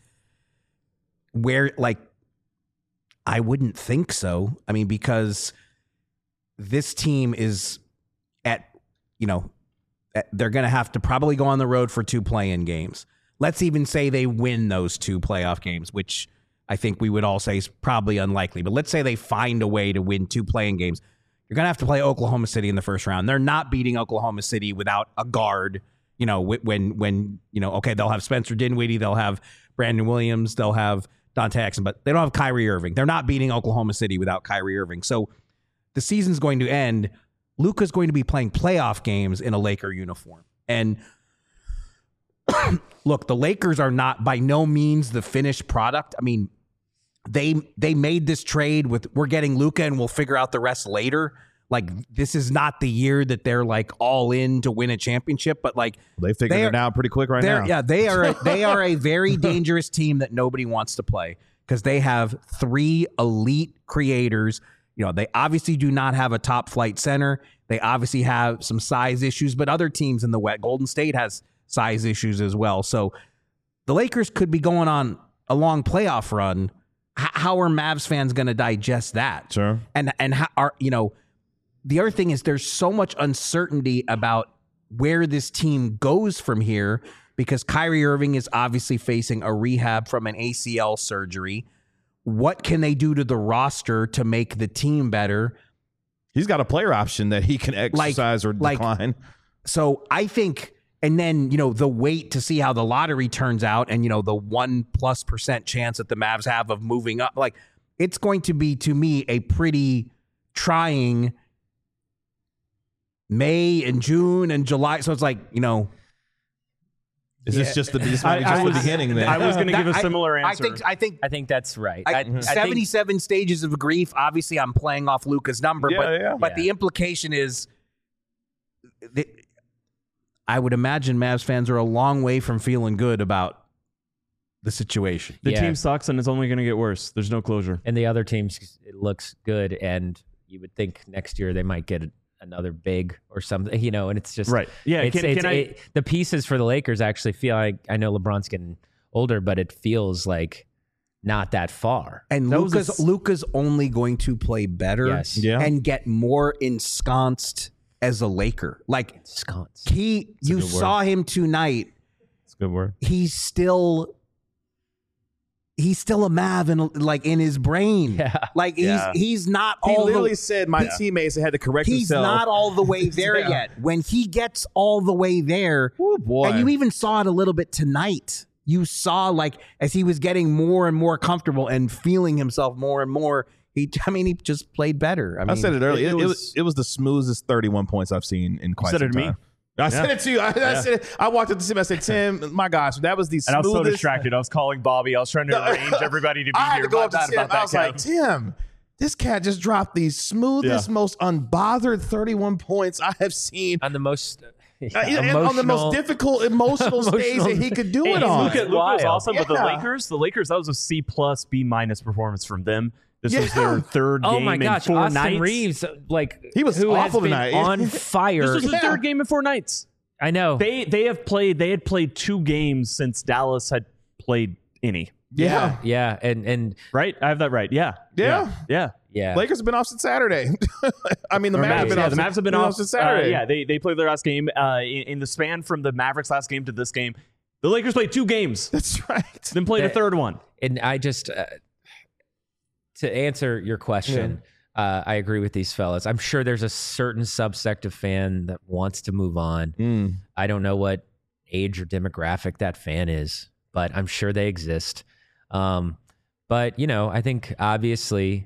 where like I wouldn't think so. I mean, because this team is at, you know, at- they're going to have to probably go on the road for two play-in games. Let's even say they win those two playoff games, which I think we would all say is probably unlikely. But let's say they find a way to win two playing games. You're going to have to play Oklahoma City in the first round. They're not beating Oklahoma City without a guard. You know, when, when you know, okay, they'll have Spencer Dinwiddie, they'll have Brandon Williams, they'll have Dante Exum, but they don't have Kyrie Irving. They're not beating Oklahoma City without Kyrie Irving. So the season's going to end. Luka's going to be playing playoff games in a Laker uniform. And look, the Lakers are not by no means the finished product. I mean, they they made this trade with we're getting Luka and we'll figure out the rest later. Like, this is not the year that they're like all in to win a championship, but like They figured they are- it out pretty quick right they're- now. Yeah, they are a, they are a very dangerous team that nobody wants to play because they have three elite creators. You know, they obviously do not have a top flight center. They obviously have some size issues, but other teams in the West, Golden State has size issues as well. So the Lakers could be going on a long playoff run. H- how are Mavs fans going to digest that? Sure. And and how are you know? The other thing is there's so much uncertainty about where this team goes from here because Kyrie Irving is obviously facing a rehab from an A C L surgery. What can they do to the roster to make the team better? He's got a player option that he can exercise or like- decline. So I think, and then, you know, the wait to see how the lottery turns out and, you know, the one plus percent chance that the Mavs have of moving up, like it's going to be, to me, a pretty trying May and June and July. So it's like, you know, Is this just the, this might be I- just I the was- beginning then? I was going to give a I- similar I answer. think, I think, I think that's right. I, I, I think- seventy-seven stages of grief. Obviously, I'm playing off Luka's number, Yeah, but yeah. but Yeah. the implication is, that I would imagine Mavs fans are a long way from feeling good about the situation. the Yeah. team sucks and it's only going to get worse. There's no closure. and the other teams, it looks good, and you would think next year they might get another big or something, you know. And it's just Right. Yeah. It's, Can, it's, can I? it- the pieces for the Lakers actually feel like, I know LeBron's getting older, but it feels like not that far. And That was a Luka's s- Luka's only going to play better Yes. Yeah. and get more ensconced as a Laker. Like Sconce. he, you good word. saw him tonight. That's a good word. He's still. He's still a Mav in like in his brain. Yeah. Like he's Yeah. he's not He all literally the, said, my teammates had to correct he's himself. not all the way there Yeah. yet. When he gets all the way there, Oh, boy. and you even saw it a little bit tonight. You saw like as he was getting more and more comfortable and feeling himself more and more. He, I mean, he just played better. I, mean, I said it earlier. It, it it was, was- it was the smoothest thirty-one points I've seen in quite said some it to me? time. I said it to you. I, I said it. I walked up to Tim. I said, Tim, my gosh, that was the And I was so smoothest. distracted. I was calling Bobby. I was trying to arrange everybody to be I had here. to go My up to bad Tim. about that, I was like, Kev. Tim, this cat just dropped the smoothest, Yeah. most unbothered thirty-one points I have seen. On the most Uh, and on the most difficult emotional stage that he could do it And on. Luka, Luka was Wild. awesome, but the Yeah. Lakers, the Lakers, that was a C plus, B minus performance from them. This was Yeah. their third Oh game my gosh, in four Austin nights. Reeves, like He was who has awful been tonight. on fire. This was the Yeah. third game in four nights. I know. They they have played they had played two games since Dallas had played any. yeah. yeah, and and Right? I have that right. Yeah. Yeah. Yeah. yeah, Lakers have been off since Saturday. I mean, the Or Mavs have been yeah, off the since- Mavs have been off since Saturday. uh, yeah, they they played their last game uh, in, in the span from the Mavericks last game to this game. The Lakers played two games, That's right. then played a That- third one. and I just uh, to answer your question, uh, I agree with these fellas. I'm sure there's a certain subsect of fan that wants to move on. Mm. I don't know what age or demographic that fan is, but I'm sure they exist. Um, but you know, I think obviously,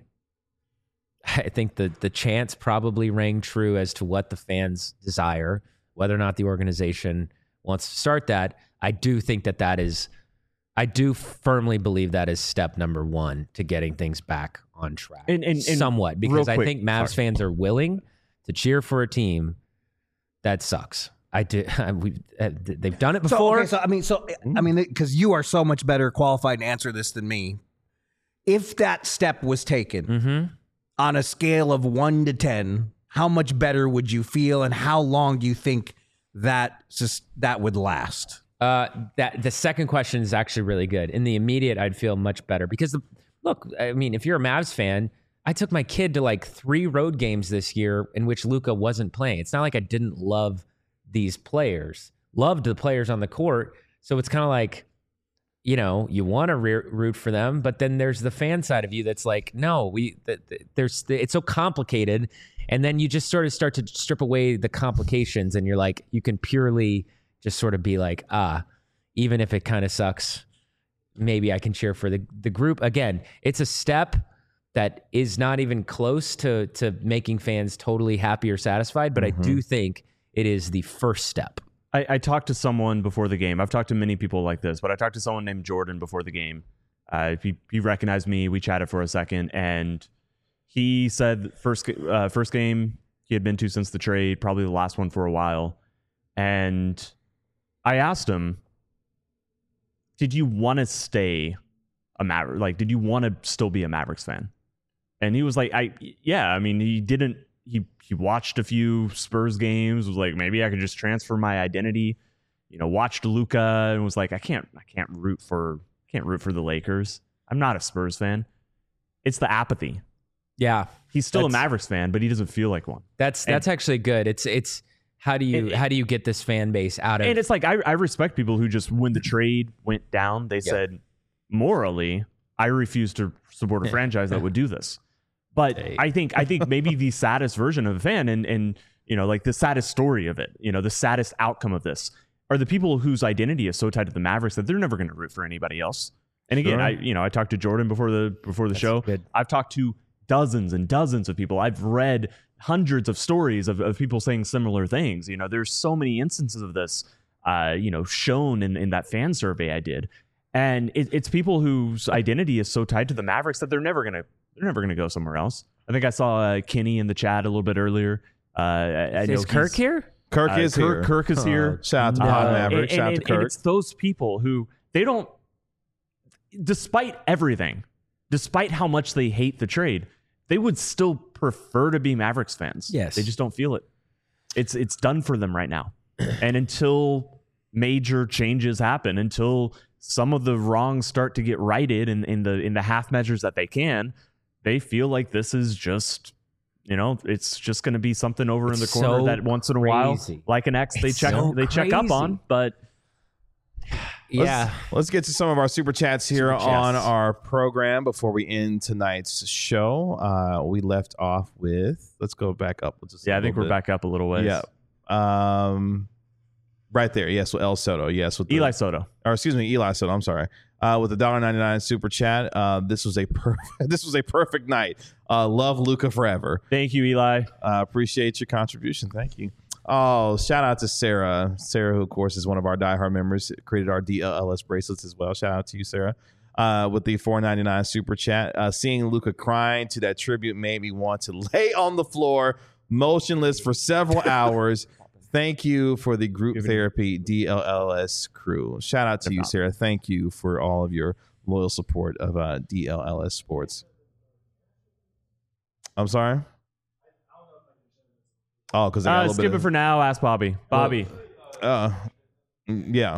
I think the the chants probably rang true as to what the fans desire, whether or not the organization wants to start that. I do think that that is, I do firmly believe that is step number one to getting things back on track. And- and- and somewhat, real because I quick, think Mavs sorry. fans are willing to cheer for a team that sucks. I do. We they've done it So, before. okay, so I mean, so I mean, because you are so much better qualified to answer this than me. If that step was taken mm-hmm. on a scale of one to ten, how much better would you feel, and how long do you think that just that would last? Uh, that the second question is actually really good. In the immediate, I'd feel much better because the look. I mean, if you're a Mavs fan, I took my kid to like three road games this year in which Luka wasn't playing. It's not like I didn't love these players, loved the players on the court. So it's kind of like, you know, you want to re- root for them, but then there's the fan side of you that's like, no, we th- th- there's it's so complicated, and then you just sort of start to strip away the complications, and you're like, you can purely just sort of be like, ah, even if it kind of sucks, maybe I can cheer for the the group. Again, it's a step that is not even close to to making fans totally happy or satisfied, but mm-hmm. I do think it is the first step. I, I talked to someone before the game. I've talked to many people like this, but I talked to someone named Jordan before the game. Uh, he, he recognized me. We chatted for a second, and he said first uh, first game he had been to since the trade, probably the last one for a while. And I asked him, did you want to stay a Maverick? Like, did you want to still be a Mavericks fan? And he was like, I yeah, I mean, he didn't. He he watched a few Spurs games, was like, maybe I could just transfer my identity, you know, watched Luka and was like, I can't I can't root for can't root for the Lakers. I'm not a Spurs fan. It's the apathy. Yeah. He's still a Mavericks fan, but he doesn't feel like one. That's and, that's actually good. It's it's how do you and, how do you get this fan base out of And it's like I, I respect people who just when the trade went down, they yep. said, morally, I refuse to support a franchise that would do this. But I think I think maybe the saddest version of a fan and and you know, like the saddest story of it, you know, the saddest outcome of this are the people whose identity is so tied to the Mavericks that they're never going to root for anybody else. And again, sure. I you know, I talked to Jordan before the before the That's show. Good. I've talked to dozens and dozens of people. I've read hundreds of stories of, of people saying similar things. You know, there's so many instances of this uh, you know, shown in, in that fan survey I did. And it, it's people whose identity is so tied to the Mavericks that they're never going to They're never going to go somewhere else. I think I saw uh, Kenny in the chat a little bit earlier. Uh, I, I is Kirk here? Kirk uh, is Kirk, here. Kirk is here. Uh, shout out to uh, Pod Maverick. And, shout and, out to and, Kirk. and it's those people who they don't, despite everything, despite how much they hate the trade, they would still prefer to be Mavericks fans. Yes. They just don't feel it. It's it's done for them right now. And until major changes happen, until some of the wrongs start to get righted in, in the in the half measures that they can, they feel like this is just, you know, it's just going to be something over it's in the corner so that once in a crazy. while, like an X, they It's check so they check up on. But yeah, let's, let's get to some of our super chats here Super chats. on our program before we end tonight's show. Uh, we left off with, let's go back up. Just yeah, I think we're bit. back up a little ways. Yeah. Um, right there. Yes. With El Soto. Yes. With the, Eli Soto. Or excuse me, Eli Soto. I'm sorry. Uh, with the one dollar ninety-nine super chat. Uh, this was a perfect. This was a perfect night. Uh, love Luka forever. Thank you, Eli. Uh, appreciate your contribution. Thank you. Oh, shout out to Sarah. Sarah, who of course is one of our diehard members, created our D L L S bracelets as well. Shout out to you, Sarah. Uh, with the four ninety-nine super chat. Uh, seeing Luka crying to that tribute made me want to lay on the floor, motionless for several hours. Thank you for the group therapy D L L S crew. Shout out to you, Sarah. Thank you for all of your loyal support of uh, D L L S Sports. I'm sorry? Oh, because I got a Uh, little skip bit it of, for now. Ask Bobby. Bobby. Uh, yeah.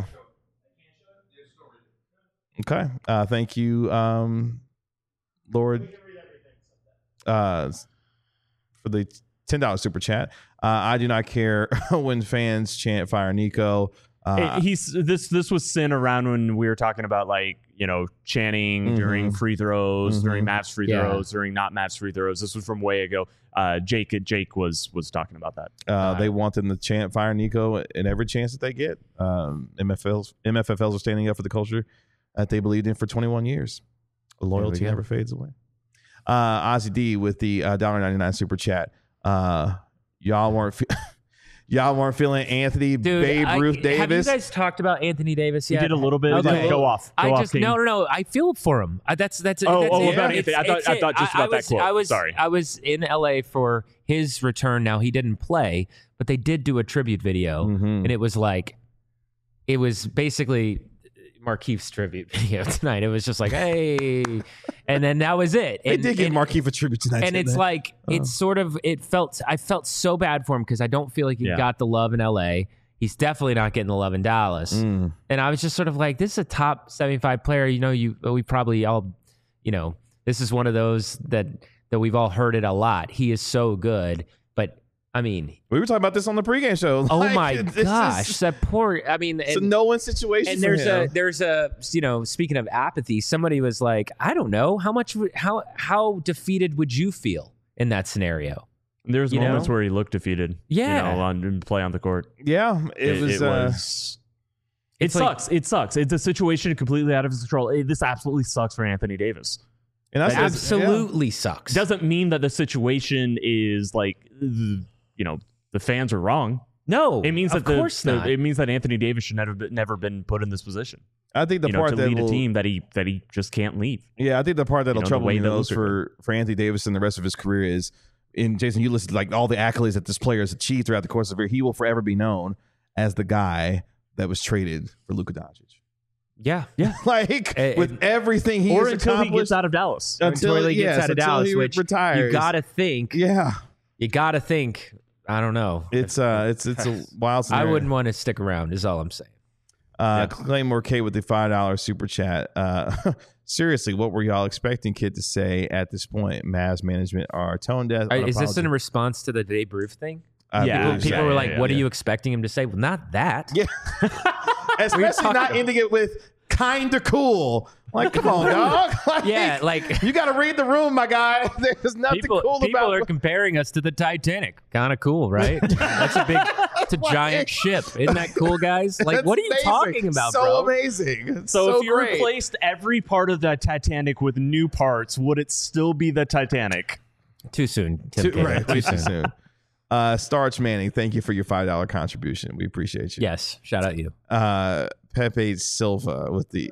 Okay. Uh, thank you, um, Lord, uh, for the ten dollar super chat. Uh, I do not care when fans chant "Fire Nico." Uh, It- he's this. This was sin around when we were talking about like you know chanting Mhm. during free throws, Mhm. during Mavs free Yeah. throws, during not Mavs free throws. This was from way ago. Uh, Jake Jake was was talking about that. uh, they want them to chant "Fire Nico" in every chance that they get. Um, M F Ls, M F F Ls are standing up for the culture that they believed in for twenty-one years. Loyalty go. never fades away. Uh, Ozzy D with the uh, one dollar ninety-nine super chat. Uh, y'all weren't fe- y'all weren't feeling Anthony Dude, Babe I- Ruth Have you Davis. guys talked about Anthony Davis He yet? did a little bit. Okay. Go off. Go I off, just King. no no no. I feel for him. Uh, that's that's Oh, that's oh, it. about It's- Anthony. I thought- it's I it. thought just I- about I that was, quote. I was Sorry. I was in L A for his return. Now he didn't play, but they did do a tribute video, Mhm. and it was like it was basically Markeith's tribute video tonight. It was just like hey, and then that was it. They And- did give and- Markeith a tribute tonight, and didn't it's they? like it's sort of it felt I felt so bad for him because I don't feel like he Yeah. got the love in L A. He's definitely not getting the love in Dallas. Mm. And I was just sort of like, this is a top seventy-five player. You know, you we probably all, you know, this is one of those that that we've all heard it a lot. He is so good, but I mean, We were talking about this on the pregame show. oh Like, my this gosh, is- that poor. I mean, it's a and, no-win situation. and for there's him. a there's a you know, speaking of apathy, somebody was like, I don't know how much would- how how defeated would you feel in that scenario? There's You moments know? where he looked defeated. Yeah. You know, on play on the court. yeah. It, It, was. it uh, was. It It's like- sucks. it sucks. It's a situation completely out of his control. It- this absolutely sucks for Anthony Davis. and that's Absolutely sucks. Doesn't mean that the situation is like, you know, the fans are wrong. no, It means of that the, course the- not. it means that Anthony Davis should never been, never been put in this position. I think the you know, part to that lead will, a team that he that he just can't leave. Yeah, I think the part that'll You know, the trouble way me that most Luka for, for Anthony Davis and the rest of his career is, in Jason, you listed like all the accolades that this player has achieved throughout the course of his career. He will forever be known as the guy that was traded for Luka Doncic. yeah, Yeah. Like Eh, with everything he or has until he accomplished gets out of Dallas. until, until he gets yes, out of until Dallas, he which retires. you gotta think. yeah, You gotta think. I don't know. it's uh, it's it's a wild. I Scenario. wouldn't want to stick around. Is all I'm saying. Uh, Claymore K with the five dollar super chat. Uh, seriously, what were y'all expecting Kid to say at this point? Mavs management are tone deaf. All right, is this in unapologetic. response to the Dave Roof thing? I Yeah, believe People so. were yeah, like, yeah, "What yeah. are you expecting him to say?" Well, not that. Yeah. Especially talking not about? ending it with kinda cool. Like, come on, dog. Like, Yeah, like- you got to read the room, my guy. There's nothing People, cool people about are comparing us to the Titanic. Kind of cool, right? That's a big, it's a giant ship. Isn't that cool, guys? Like, That's what are you amazing. talking about, so bro? amazing. It's So, so if you great. replaced every part of the Titanic with new parts, would it still be the Titanic? Too soon. Tim Too, Kaine. right, too soon. Uh, Starch Manning, thank you for your five dollar contribution. We appreciate you. Yes, shout out you. Uh, Pepe Silva with the.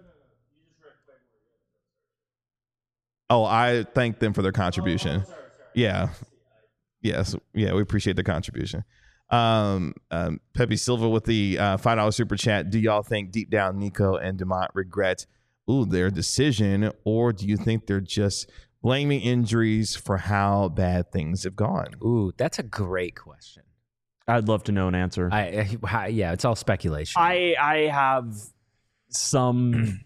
Oh, I thank them for their contribution. Yeah. Yes. Yeah, we appreciate the contribution. Um, um, Pepe Silva with the uh, five dollar super chat. Do y'all think deep down Nico and Dumont regret ooh, their decision, or do you think they're just blaming injuries for how bad things have gone? Ooh, that's a great question. I'd love to know an answer. I, I yeah, it's all speculation. I I have some.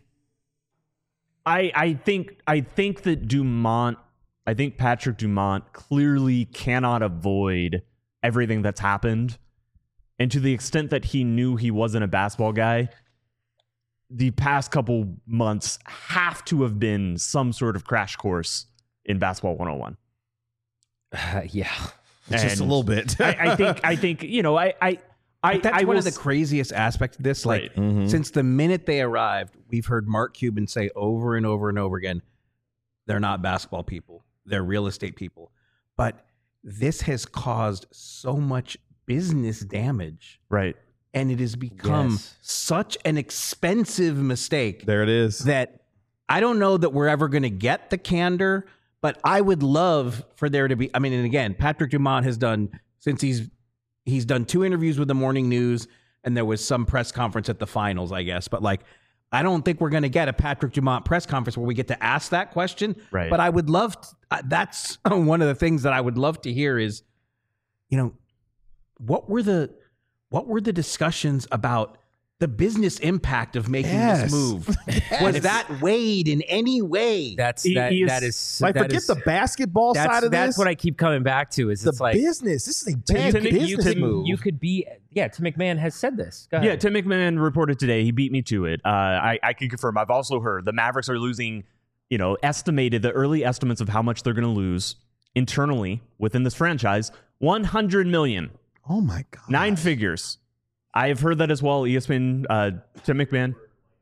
I I think I think that Dumont. I think Patrick Dumont clearly cannot avoid everything that's happened, and to the extent that he knew he wasn't a basketball guy, the past couple months have to have been some sort of crash course in basketball one oh one. Uh, yeah. Just a And little bit. I, I think I think you know I I I, But that's I one will of the s- craziest aspects of this. Like, Right. Mhm. since the minute they arrived, we've heard Mark Cuban say over and over and over again, they're not basketball people. They're real estate people. But this has caused so much business damage. right. And it has become Yes. such an expensive mistake There it is. that I don't know that we're ever going to get the candor, but I would love for there to be. I mean, and again, Patrick Dumont has done since he's he's done two interviews with the Morning News, and there was some press conference at the finals, I guess. But like, I don't think we're going to get a Patrick Dumont press conference where we get to ask that question. Right. But I would love. To, uh, that's one of the things that I would love to hear is, you know, what were the what were the discussions about the business impact of making Yes. this move? Was that weighed in any way? That's He- that, he is- that is Like, that forget is- the basketball that's, side of that's this. what I keep coming back to is the it's like business. This is a you bad could, business you could move. you could be yeah. Tim McMahon has said this. Go Yeah, ahead. Tim McMahon reported today. He beat me to it. Uh, I, I can confirm. I've also heard the Mavericks are losing, you know, estimated the early estimates of how much they're going to lose internally within this franchise, one hundred million, oh my god, nine figures. I have heard that as well. E S P N, uh, Tim McMahon.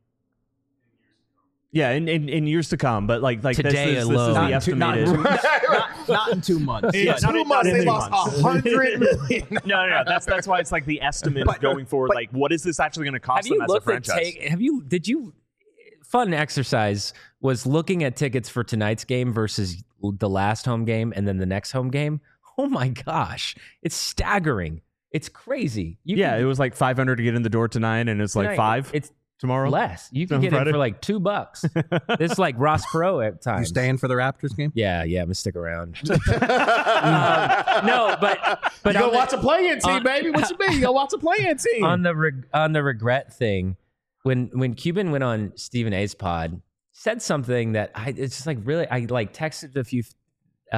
Yeah, in, in, in years to come, but like like Today this, is, alone. this is the Not in two- not in estimated. two- not, not in two months. In Yeah, two not in- months not in they two lost months. a hundred million. no, no, no. That's that's why it's like the estimate But- going forward. but- like, what is this actually going to cost Have you them as a looked at franchise? take? Have you? Did you? Fun exercise was looking at tickets for tonight's game versus the last home game and then the next home game. Oh my gosh, it's staggering. It's crazy. You Yeah, can- it was like five hundred to get in the door tonight, and it's like tonight, five It's tomorrow. less. You can On get Friday? it for like two bucks. This is like Ross Perot at You times. staying for the Raptors game? Yeah, yeah, I'm gonna stick around. um, no, but but You go on the- watch a play-in team, on- baby. What you mean? You go watch a play-in team. on the reg- on the regret thing, when when Cuban went on Stephen A's pod, said something that I it's just like really I like texted a few uh,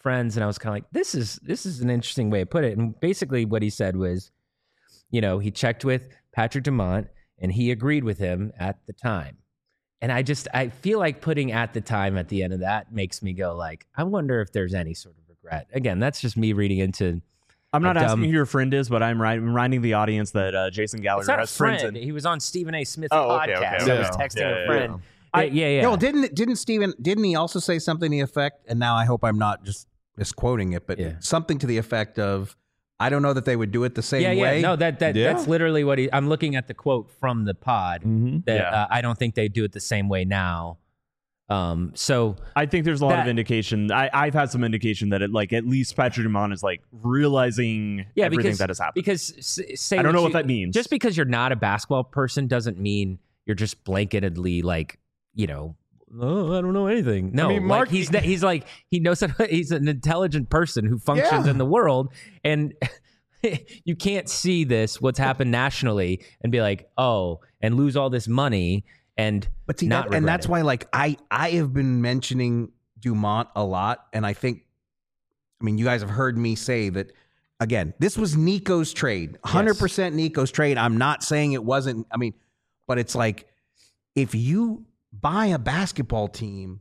friends, and I was kind of like, this is this is an interesting way to put it. And basically, what he said was, you know, he checked with Patrick Dumont, and he agreed with him at the time. And I just I feel like putting at the time at the end of that makes me go like, I wonder if there's any sort of regret. Again, that's just me reading into. I'm not a asking dumb- who your friend is, but I'm right- reminding the audience that uh, Jason It's Gallagher not a has friends. friend. In- He was on Stephen A. Smith's Oh, okay, podcast. okay, I was okay. texting Yeah, a yeah, friend. I- yeah, yeah. yeah. No, didn't didn't Steven didn't he also say something to the effect? And now I hope I'm not just misquoting it, but Yeah. something to the effect of, I don't know that they would do it the same yeah, way. yeah. No, that that Yeah. that's literally what he. I'm looking at the quote from the pod that Yeah. uh, I don't think they do it the same way now. Um, so I think there's a lot That- of indication. I, I've had some indication that it, like, at least Patrick Dumont is like realizing yeah, everything because that has happened. because s- say I don't know you- what that means. Just because you're not a basketball person doesn't mean you're just blanketedly like, you know, oh, I don't know anything. No, mean, like, Mark- he's he's like he knows how, he's an intelligent person who functions Yeah. in the world, and you can't see this what's happened nationally and be like, oh, and lose all this money and But see, not that, and regret that's it. why, like, I I have been mentioning Dumont a lot, and I think, I mean, you guys have heard me say that. Again, this was Nico's trade, one hundred percent Nico's trade. I'm not saying it wasn't. I mean, but it's like, if you buy a basketball team,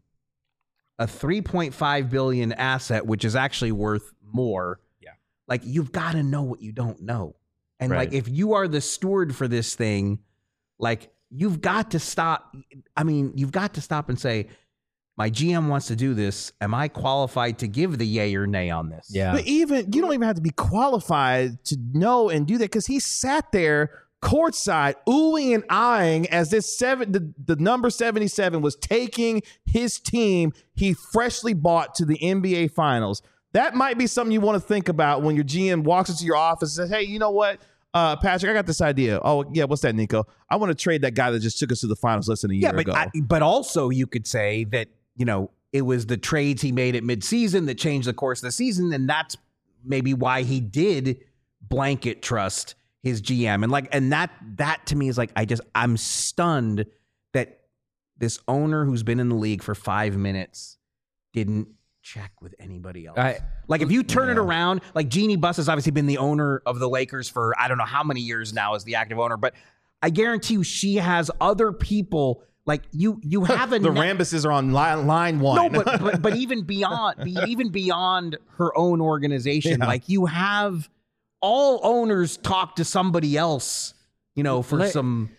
a three point five billion asset, which is actually worth more. Yeah. Like, you've got to know what you don't know, and like, Right. if you are the steward for this thing, like, you've got to stop. I mean, you've got to stop and say, my G M wants to do this. Am I qualified to give the yay or nay on this? Yeah. But even you don't even have to be qualified to know and do that because he sat there courtside, oohing and eyeing as this seven, the, the number seventy-seven was taking his team he freshly bought to the N B A Finals. That might be something you want to think about when your G M walks into your office and says, "Hey, you know what, uh, Patrick, I got this idea. Oh, yeah, what's that, Nico? I want to trade that guy that just took us to the finals less than a year Yeah, but ago." I, but also you could say that, you know, it was the trades he made at midseason that changed the course of the season, and that's maybe why he did blanket trust his G M. And like, and that that to me is like, I just I'm stunned that this owner who's been in the league for five minutes didn't check with anybody else. I- Like, if you turn it around, like, Jeannie Buss has obviously been the owner of the Lakers for I don't know how many years now as the active owner, but I guarantee you she has other people. Like, you you have a the net- Rambuses are on line, line one. no, but, but but even beyond be, even beyond her own organization, Yeah. like, you have all owners talk to somebody else, you know, for Let- some.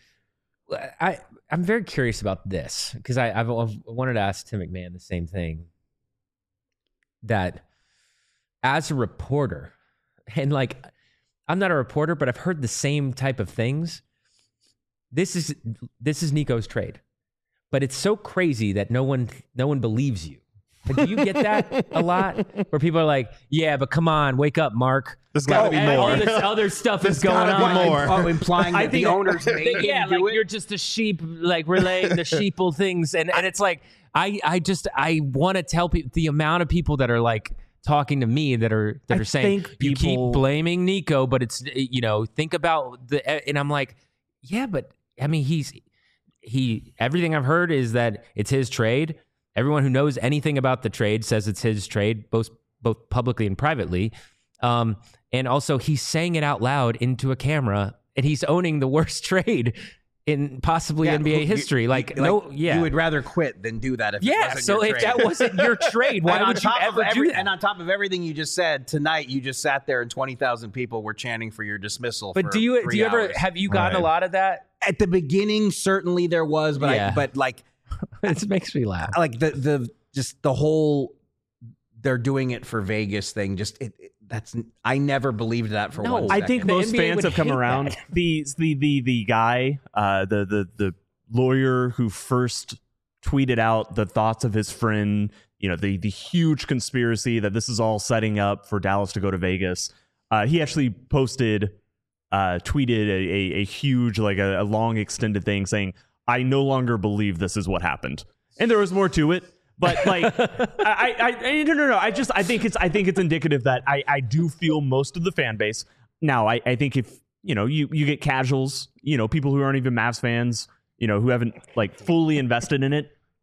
I I'm very curious about this because I I've, I've wanted to ask Tim McMahon the same thing. That as a reporter, and like I'm not a reporter, but I've heard the same type of things. This is this is Nico's trade, but it's so crazy that no one no one believes you. Like, do you get that a lot? Where people are like, "Yeah, but come on, wake up, Mark. There's gotta be And more. All this other stuff There's is going gotta be on." more. Oh, implying that the owners made him yeah, do like it. you're just a sheep, like relaying the sheeple things, and and it's like I I just I want to tell people the amount of people that are like talking to me that are that I are saying think you people- keep blaming Nico, but it's you know think about the and I'm like yeah, but I mean he's he everything I've heard is that it's his trade. Everyone who knows anything about the trade says it's his trade, both both publicly and privately. Um, and also he's saying it out loud into a camera, and he's owning the worst trade in possibly Yeah, N B A you- history. you- Like, no, yeah, you would rather quit than do that if it yeah. wasn't So your if trade. that wasn't your trade, why And on would you top of ever every- do that? And on top of everything you just said tonight, you just sat there and twenty thousand people were chanting for your dismissal. But for do you do three you ever hours. have you gotten Right. a lot of that? At the beginning, certainly there was, but Yeah. I, but like It makes me laugh. like the the just the whole they're doing it for Vegas thing. Just it, it- that's I never believed that for No, one I second. think The most N B A fans would have come hate around. that. The the the the guy, uh, the the the lawyer who first tweeted out the thoughts of his friend, you know, the the huge conspiracy that this is all setting up for Dallas to go to Vegas. Uh, he actually posted, uh, tweeted a, a, a huge, like a, a long extended thing saying, "I no longer believe this is what happened," and there was more to it. But like, I, I, I, no, no, no. I just, I think it's, I think it's indicative that I, I do feel most of the fan base. Now, I, I think if you know, you, you get casuals, you know, people who aren't even Mavs fans, you know, who haven't like fully invested in it.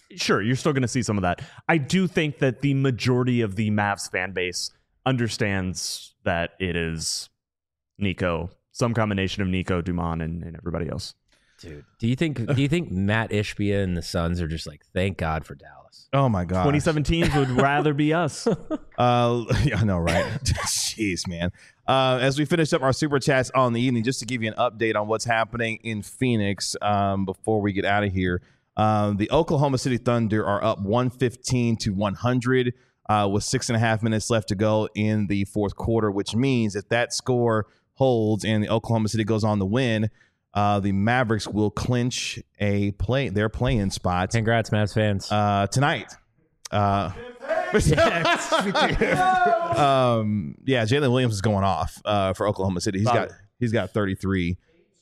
sure, you're still going to see some of that. I do think that the majority of the Mavs fan base understands that it is Nico, some combination of Nico, Dumont, and, and everybody else. Dude, do you think do you think Matt Ishbia and the Suns are just like, thank God for Dallas? Oh my god, twenty seventeens would rather be us. Uh, yeah, I know, right? Jeez, man. Uh, as we finish up our super chats on the evening, just to give you an update on what's happening in Phoenix um, before we get out of here, um, the Oklahoma City Thunder are up one fifteen to one hundred uh, with six and a half minutes left to go in the fourth quarter, which means if that score holds and the Oklahoma City goes on to win, uh, the Mavericks will clinch a play their play-in spot. Congrats, Mavs fans. Uh, tonight. Uh, um, yeah, Jalen Williams is going off uh, for Oklahoma City. He's got he's got thirty-three.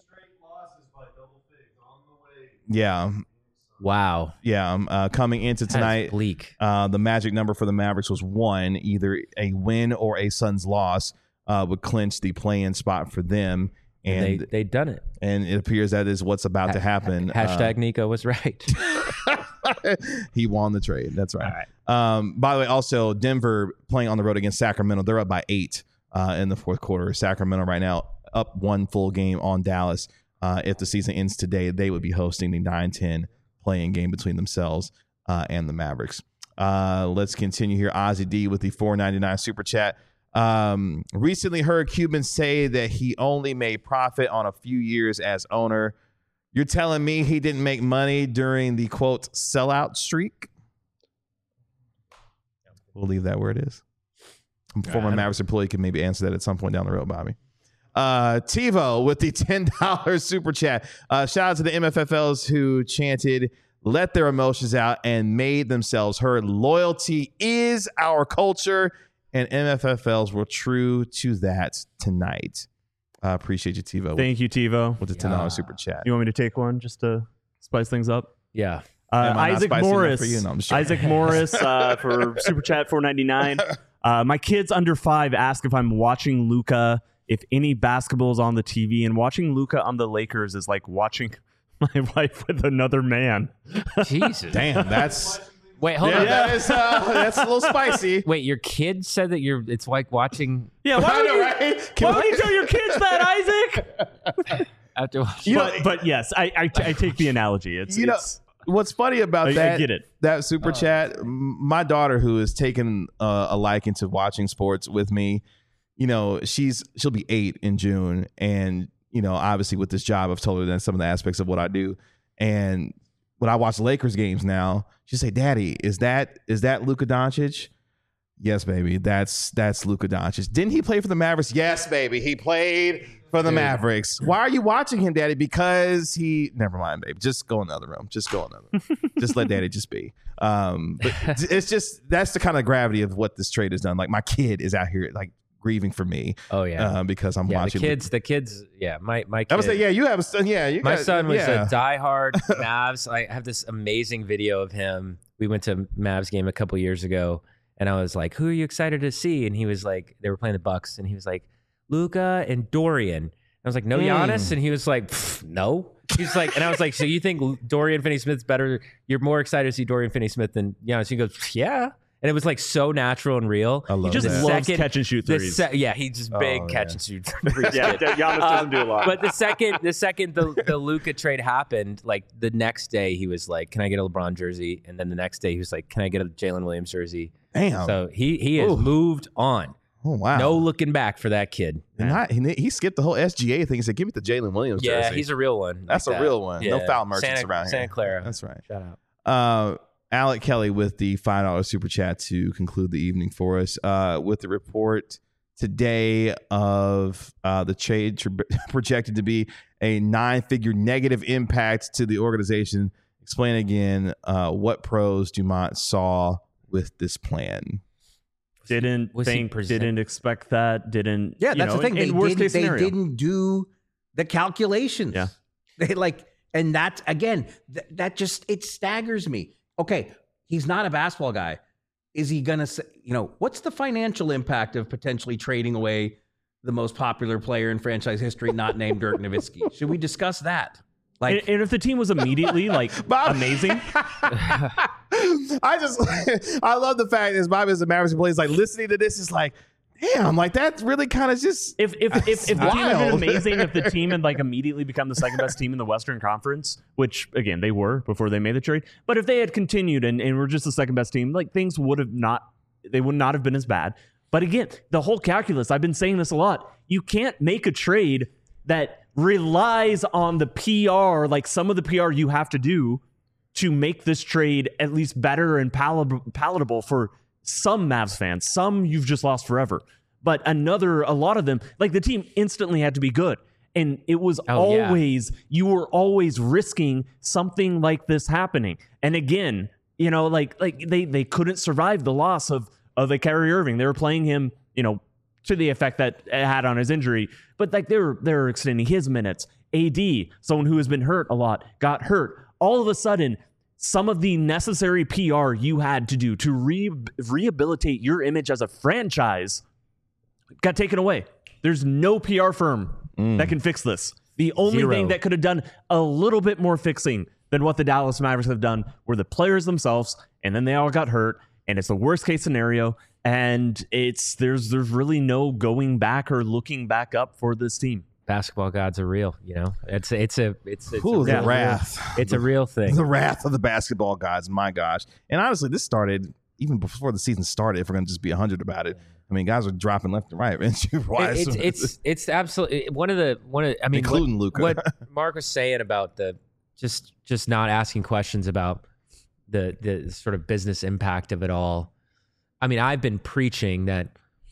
Yeah. Wow. Yeah. Um, uh, coming into That is tonight, bleak. uh, the magic number for the Mavericks was one. Either a win or a Suns loss uh, would clinch the play-in spot for them. And they they done it. and it appears that is what's about to happen. Hashtag Uh, Nico was right. he won the trade. That's right. Um, by the way, also Denver playing on the road against Sacramento. They're up by eight uh, in the fourth quarter. Sacramento right now up one full game on Dallas. Uh, if the season ends today, they would be hosting the nine ten playing game between themselves uh, and the Mavericks. Uh, let's continue here. Ozzy D with the four ninety-nine super chat. Um, recently heard Cuban say that he only made profit on a few years as owner. You're telling me he didn't make money during the quote sellout streak? We'll leave that where it is. A former Mavericks employee can maybe answer that at some point down the road, Bobby. Uh, TiVo with the ten dollars super chat. Uh, shout out to the M F F Ls who chanted, let their emotions out and made themselves heard. Loyalty is our culture, and M F F Ls were true to that tonight. I uh, appreciate you, TiVo. Thank you, TiVo. With the ten dollars super chat. You want me to take one just to spice things up? Yeah. Uh, Am I not Isaac spicy enough Morris. for you? No, I'm just joking. Isaac Morris uh, for Super Chat four ninety-nine. Uh, my kids under five ask if I'm watching Luka, if any basketball is on the T V, and watching Luka on the Lakers is like watching my wife with another man. Jesus. Damn, that's Wait, hold yeah, on. that is uh, that's a little spicy. Wait, your kid said that you're. It's like watching Yeah, why I would know, you, right? Can why would we- you tell your kids that, Isaac? after watching. You but, know- but yes, I, I, I take the analogy. It's, You know, it's what's funny about I- I that? get it. That super chat. m- My daughter, who has taken uh, a liking to watching sports with me, you know, she's she'll be eight in June, and you know, obviously with this job, I've told her that some of the aspects of what I do, and when I watch Lakers games now, she say, "Daddy, is that is that Luka Doncic?" Yes, baby. That's that's Luka Doncic. Didn't he play for the Mavericks? Yes, baby. He played for the Mavericks. Why are you watching him, Daddy? Because he. Never mind, baby. Just go in the other room. Just go in the other room. Just let Daddy just be. Um, but it's just that's the kind of gravity of what this trade has done. Like my kid is out here like grieving for me. Oh yeah. uh, because I'm yeah, watching the kids. The kids. Yeah, my my. Kid, I would say, yeah, you have a son. Yeah, you My got- son was yeah. a diehard Mavs. I have this amazing video of him. We went to Mavs game a couple years ago, and I was like, "Who are you excited to see?" And he was like, "They were playing the Bucks," and he was like, "Luka and Dorian." I was like, "No Giannis," and he was like, "Pff, "No." He's like, and I was like, "So you think Dorian Finney-Smith's better? You're more excited to see Dorian Finney-Smith than Giannis?" He goes, "Yeah." And it was like so natural and real. I love he just that. loves second- catch and shoot The threes. se- yeah, he's just big Oh, catch yeah. and shoot threes. yeah, Giannis doesn't do a lot. But the second the second the, the Luka trade happened, like the next day he was like, "Can I get a LeBron jersey?" And then the next day he was like, "Can I get a Jalen Williams jersey?" Damn. So he he has Ooh. moved on. oh wow. No looking back for that kid. And not, he, he skipped the whole S G A thing. He said, "Give me the Jalen Williams Yeah, jersey." he's a real one. That's like a that. real one. No Yeah. foul merchants Santa, around here. Santa Clara. That's right. Shout out. Uh, Alec Kelly with the five dollars super chat to conclude the evening for us uh, with the report today of uh, the trade tr- projected to be a nine-figure negative impact to the organization. Explain again uh, what pros Dumont saw with this plan. didn't Was he think, present- didn't expect that, didn't. Yeah, you that's know, the thing. In, in they worst didn't, case they scenario. didn't do the calculations. Yeah. They like, and that again, th- that just it staggers me. Okay, he's not a basketball guy. Is he gonna say, you know, what's the financial impact of potentially trading away the most popular player in franchise history, not named Dirk Nowitzki? Should we discuss that? Like, and, and if the team was immediately like Bob- amazing, I just, I love the fact as Bobby as a Mavericks player is like listening to this is like, damn, like that's really kind of just. If if if, if the team had been wild. amazing, if the team had like immediately become the second best team in the Western Conference, which again they were before they made the trade, but if they had continued and, and were just the second best team, like things would have not, they would not have been as bad. But again, the whole calculus, I've been saying this a lot. You can't make a trade that relies on the P R, like some of the P R you have to do to make this trade at least better and palat- palatable for some Mavs fans. Some you've just lost forever. But another, a lot of them, like the team instantly had to be good. And it was Oh, yeah. always, you were always risking something like this happening. And again, you know, like like they they couldn't survive the loss of of a Kyrie Irving. They were playing him, you know, to the effect that it had on his injury. But like they were they were extending his minutes. A D, someone who has been hurt a lot, got hurt. All of a sudden, some of the necessary P R you had to do to re- rehabilitate your image as a franchise got taken away. There's no P R firm Mm. that can fix this. The only Zero. thing that could have done a little bit more fixing than what the Dallas Mavericks have done were the players themselves, and then they all got hurt, and it's the worst case scenario, and it's there's there's really no going back or looking back up for this team. Basketball gods are real, you know. It's it's a it's it's Ooh, a the real, wrath. It's a real thing. The wrath of the basketball gods. My gosh. And honestly, this started even before the season started, if we're going to just be one hundred about it. I mean, guys are dropping left and right. It- it's it's it's absolutely one of the one of I mean Including what, Luka. what Mark was saying about the just just not asking questions about the the sort of business impact of it all. I mean, I've been preaching that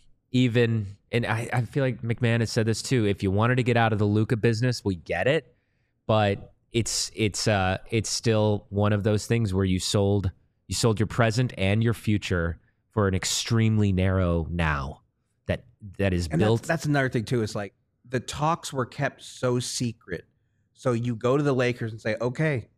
even and I, I feel like McMahon has said this too. If you wanted to get out of the Luka business, we get it, but it's it's uh it's still one of those things where you sold you sold your present and your future for an extremely narrow now that that is And built. that's, that's another thing too. Is like the talks were kept so secret. So you go to the Lakers and say, okay,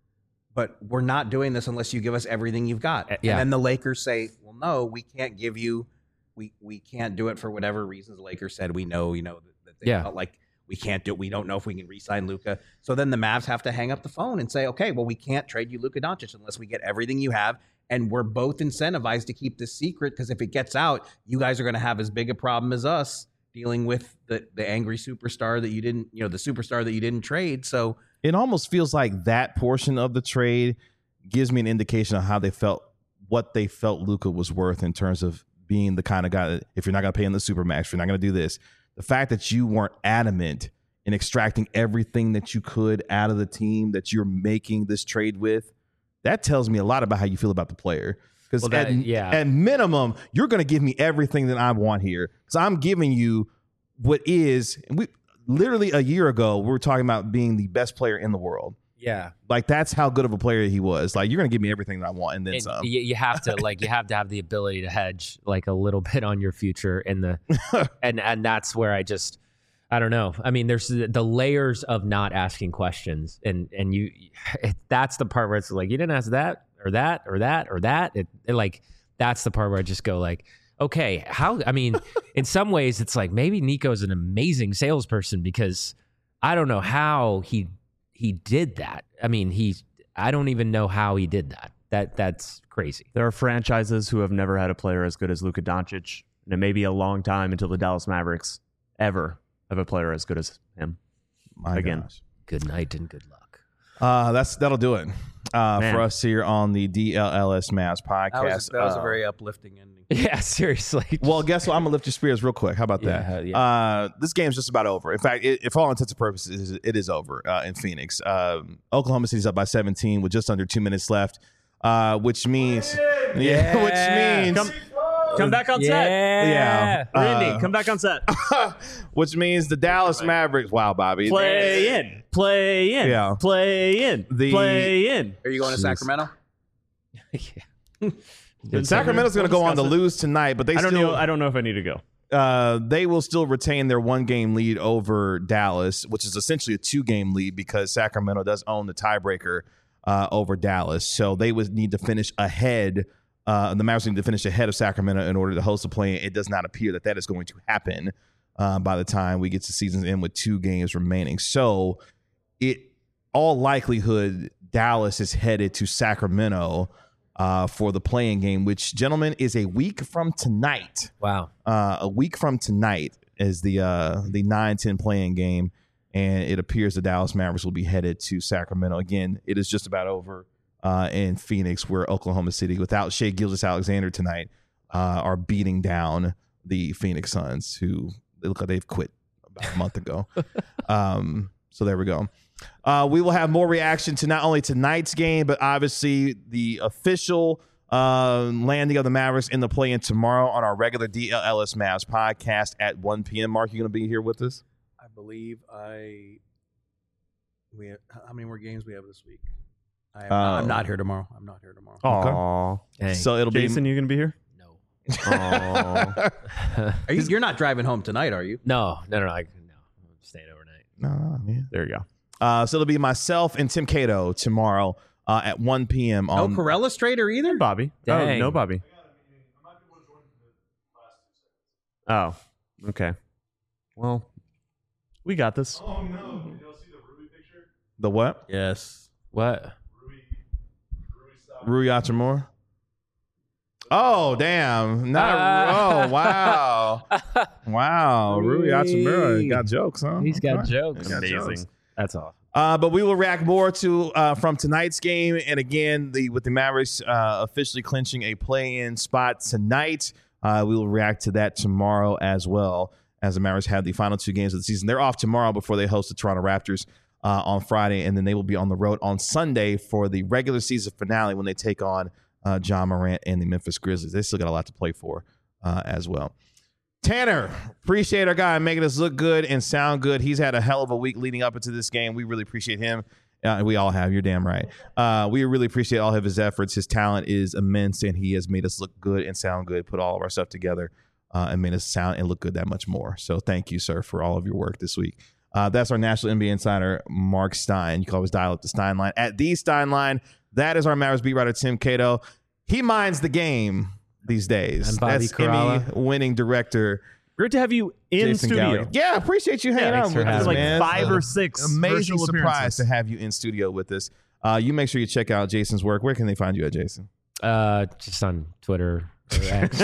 but we're not doing this unless you give us everything you've got. Uh, yeah. And then the Lakers say, well, no, we can't give you, we we can't do it for whatever reasons. The Lakers said, we know, you know, that, that they Yeah. felt like we can't do it. We don't know if we can re-sign Luka. So then the Mavs have to hang up the phone and say, okay, well, we can't trade you Luka Doncic unless we get everything you have. And we're both incentivized to keep this secret because if it gets out, you guys are going to have as big a problem as us dealing with the, the angry superstar that you didn't, you know, the superstar that you didn't trade. So It almost feels like that portion of the trade gives me an indication of how they felt, what they felt Luka was worth in terms of being the kind of guy that if you're not going to pay him the supermax, if you're not going to do this, the fact that you weren't adamant in extracting everything that you could out of the team that you're making this trade with, that tells me a lot about how you feel about the player. Because Well, that- at, yeah. at minimum, you're going to give me everything that I want here. Because I'm giving you what is, and we literally a year ago, we were talking about being the best player in the world. yeah. Like that's how good of a player he was. Like you're going to give me everything that I want and then And some. you, you have to like you have to have the ability to hedge like a little bit on your future in the and and that's where I just I don't know. I mean, there's the, the layers of not asking questions, and and you it, that's the part where it's like you didn't ask that or that or that or that. It, it like that's the part where I just go like, okay, how? I mean, in some ways, it's like maybe Nico's an amazing salesperson because I don't know how he he did that. I mean, he I don't even know how he did that. That that's crazy. There are franchises who have never had a player as good as Luka Doncic, and it may be a long time until the Dallas Mavericks ever have a player as good as him. My again. gosh. Good night and good luck. Uh, that's that'll do it uh, Man. for us here on the D L L S Mavs podcast. that was, that was Uh, a very uplifting ending. Yeah, seriously. well, guess what? I'm gonna lift your spirits real quick. How about that? Yeah, Uh, this game's just about over. In fact, it, for all intents and purposes, it is over uh, in Phoenix. Um, Oklahoma City's up by seventeen with just under two minutes left, uh, which means yeah, which means. Come, come back on set. Yeah. Randy, Uh, come back on set. which means the Dallas Mavericks. Wow, Bobby. Play in. Play in. Yeah. Play in. The- Play in. Are you going to Sacramento? Sacramento's going to go on to lose tonight, but they I don't still know. I don't know if I need to go. uh, they will still retain their one game lead over Dallas, which is essentially a two game lead because Sacramento does own the tiebreaker uh, over Dallas. So they would need to finish ahead. Uh, the Mavericks need to finish ahead of Sacramento in order to host the play. It does not appear that that is going to happen uh, by the time we get to season's end with two games remaining. So it all likelihood Dallas is headed to Sacramento uh, for the play-in game, which, gentlemen, is a week from tonight. Wow. Uh, a week from tonight is the uh, the nine ten play-in game, and it appears the Dallas Mavericks will be headed to Sacramento. Again, it is just about over uh, in Phoenix, where Oklahoma City, without Shai Gilgeous-Alexander tonight, uh, are beating down the Phoenix Suns, who they look like they've quit about a month ago. um, so there we go. Uh, we will have more reaction to not only tonight's game, but obviously the official uh, landing of the Mavericks in the play-in tomorrow on our regular D L L S Mavs podcast at one p.m. Mark, you going to be here with us? I believe I. We have, how many more games we have this week? I am, Uh, I'm not here tomorrow. I'm not here tomorrow. Aw. Dang. So it'll Jason, you gonna be here? No. Aw. Are you, you're not driving home tonight, are you? no, no, no, I, no. I'm staying overnight. be no, man. There you go. Uh, so it'll be myself and Tim Cato tomorrow uh, at one p.m. No on Corella Strader either? Bobby. Dang. Oh, no, Bobby. Oh, okay. Well, we got this. the what? Yes. What? Rui Hachimura. Oh, damn. Not Ah. oh, wow. Wow. Rui Hachimura got jokes, huh? He's got Okay. jokes. He's got jokes. That's all. Uh, but we will react more to uh, from tonight's game, and again, the with the Mavericks uh, officially clinching a play-in spot tonight. Uh, we will react to that tomorrow as well, as the Mavericks have the final two games of the season. They're off tomorrow before they host the Toronto Raptors uh, on Friday, and then they will be on the road on Sunday for the regular season finale when they take on uh, John Morant and the Memphis Grizzlies. They still got a lot to play for uh, as well. Tanner, appreciate our guy making us look good and sound good. He's had a hell of a week leading up into this game. We really appreciate him. Uh, we all have. You're damn right. Uh, we really appreciate all of his efforts. His talent is immense, and he has made us look good and sound good, put all of our stuff together, uh, and made us sound and look good that much more. So thank you, sir, for all of your work this week. Uh, that's our National N B A insider, Mark Stein. You can always dial up the Stein line at the Stein line. That is our Mavericks beat writer, Tim Cato. He minds the game these days. And Bobby That's Corrala. Emmy-winning director Great to have you in Jason studio. Gallagher. Yeah, appreciate you hanging thanks out for with us, having Like me. man. five Uh, or six Amazing virtual surprise appearances. to have you in studio with us. Uh, you make sure you check out Jason's work. Where can they find you at, Jason? Uh, just on Twitter or X.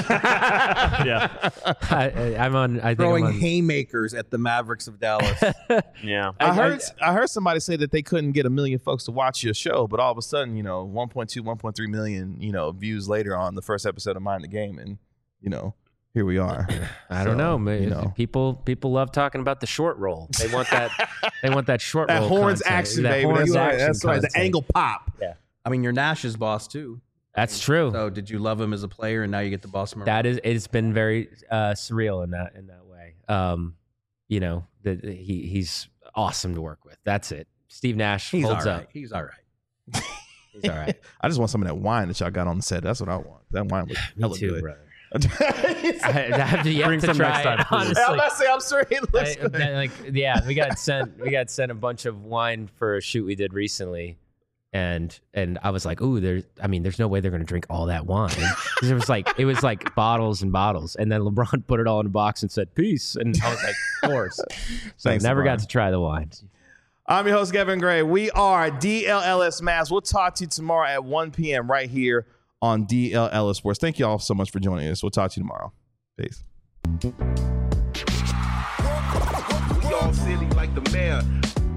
Yeah. I, I- I'm on. I think Throwing I'm on, haymakers at the Mavericks of Dallas. Yeah. I, I- heard I, heard somebody say that they couldn't get a million folks to watch your show, but all of a sudden, you know, one point two, one point three million, you know, views later on the first episode of Mind the Game, and you know, here we are. I don't So, know. man. you know. People people love talking about the short roll. They want that. they want that short That roll. horns content. action, That baby. horns That's right. action That's right. The content. angle pop. I mean, you're Nash's boss, too. That's true. So did you love him as a player, and now you get the boss him around? That is. It's been very uh, surreal in that in that way. Um, you know, that he he's awesome to work with. That's it. Steve Nash He's all holds right. up. He's all right. He's all right. I just want some of that wine that y'all got on the set. That's what I want. That wine was Me hella too, good. brother. I, I have to yet Bring to some try next it, time, please. honestly. I'm not saying I'm sure he looks I- good. that, like yeah, we got sent we got sent a bunch of wine for a shoot we did recently, and and I was like, ooh, there's I mean, there's no way they're gonna drink all that wine. 'Cause it was like it was like bottles and bottles, and then LeBron put it all in a box and said peace, and I was like, of course. So Thanks, I never LeBron. got to try the wine. I'm your host, Kevin Gray. We are D L L S Mavs. We'll talk to you tomorrow at one p.m. right here on D L L S Sports. Thank you all so much for joining us. We'll talk to you tomorrow. Peace. We all silly like the mayor.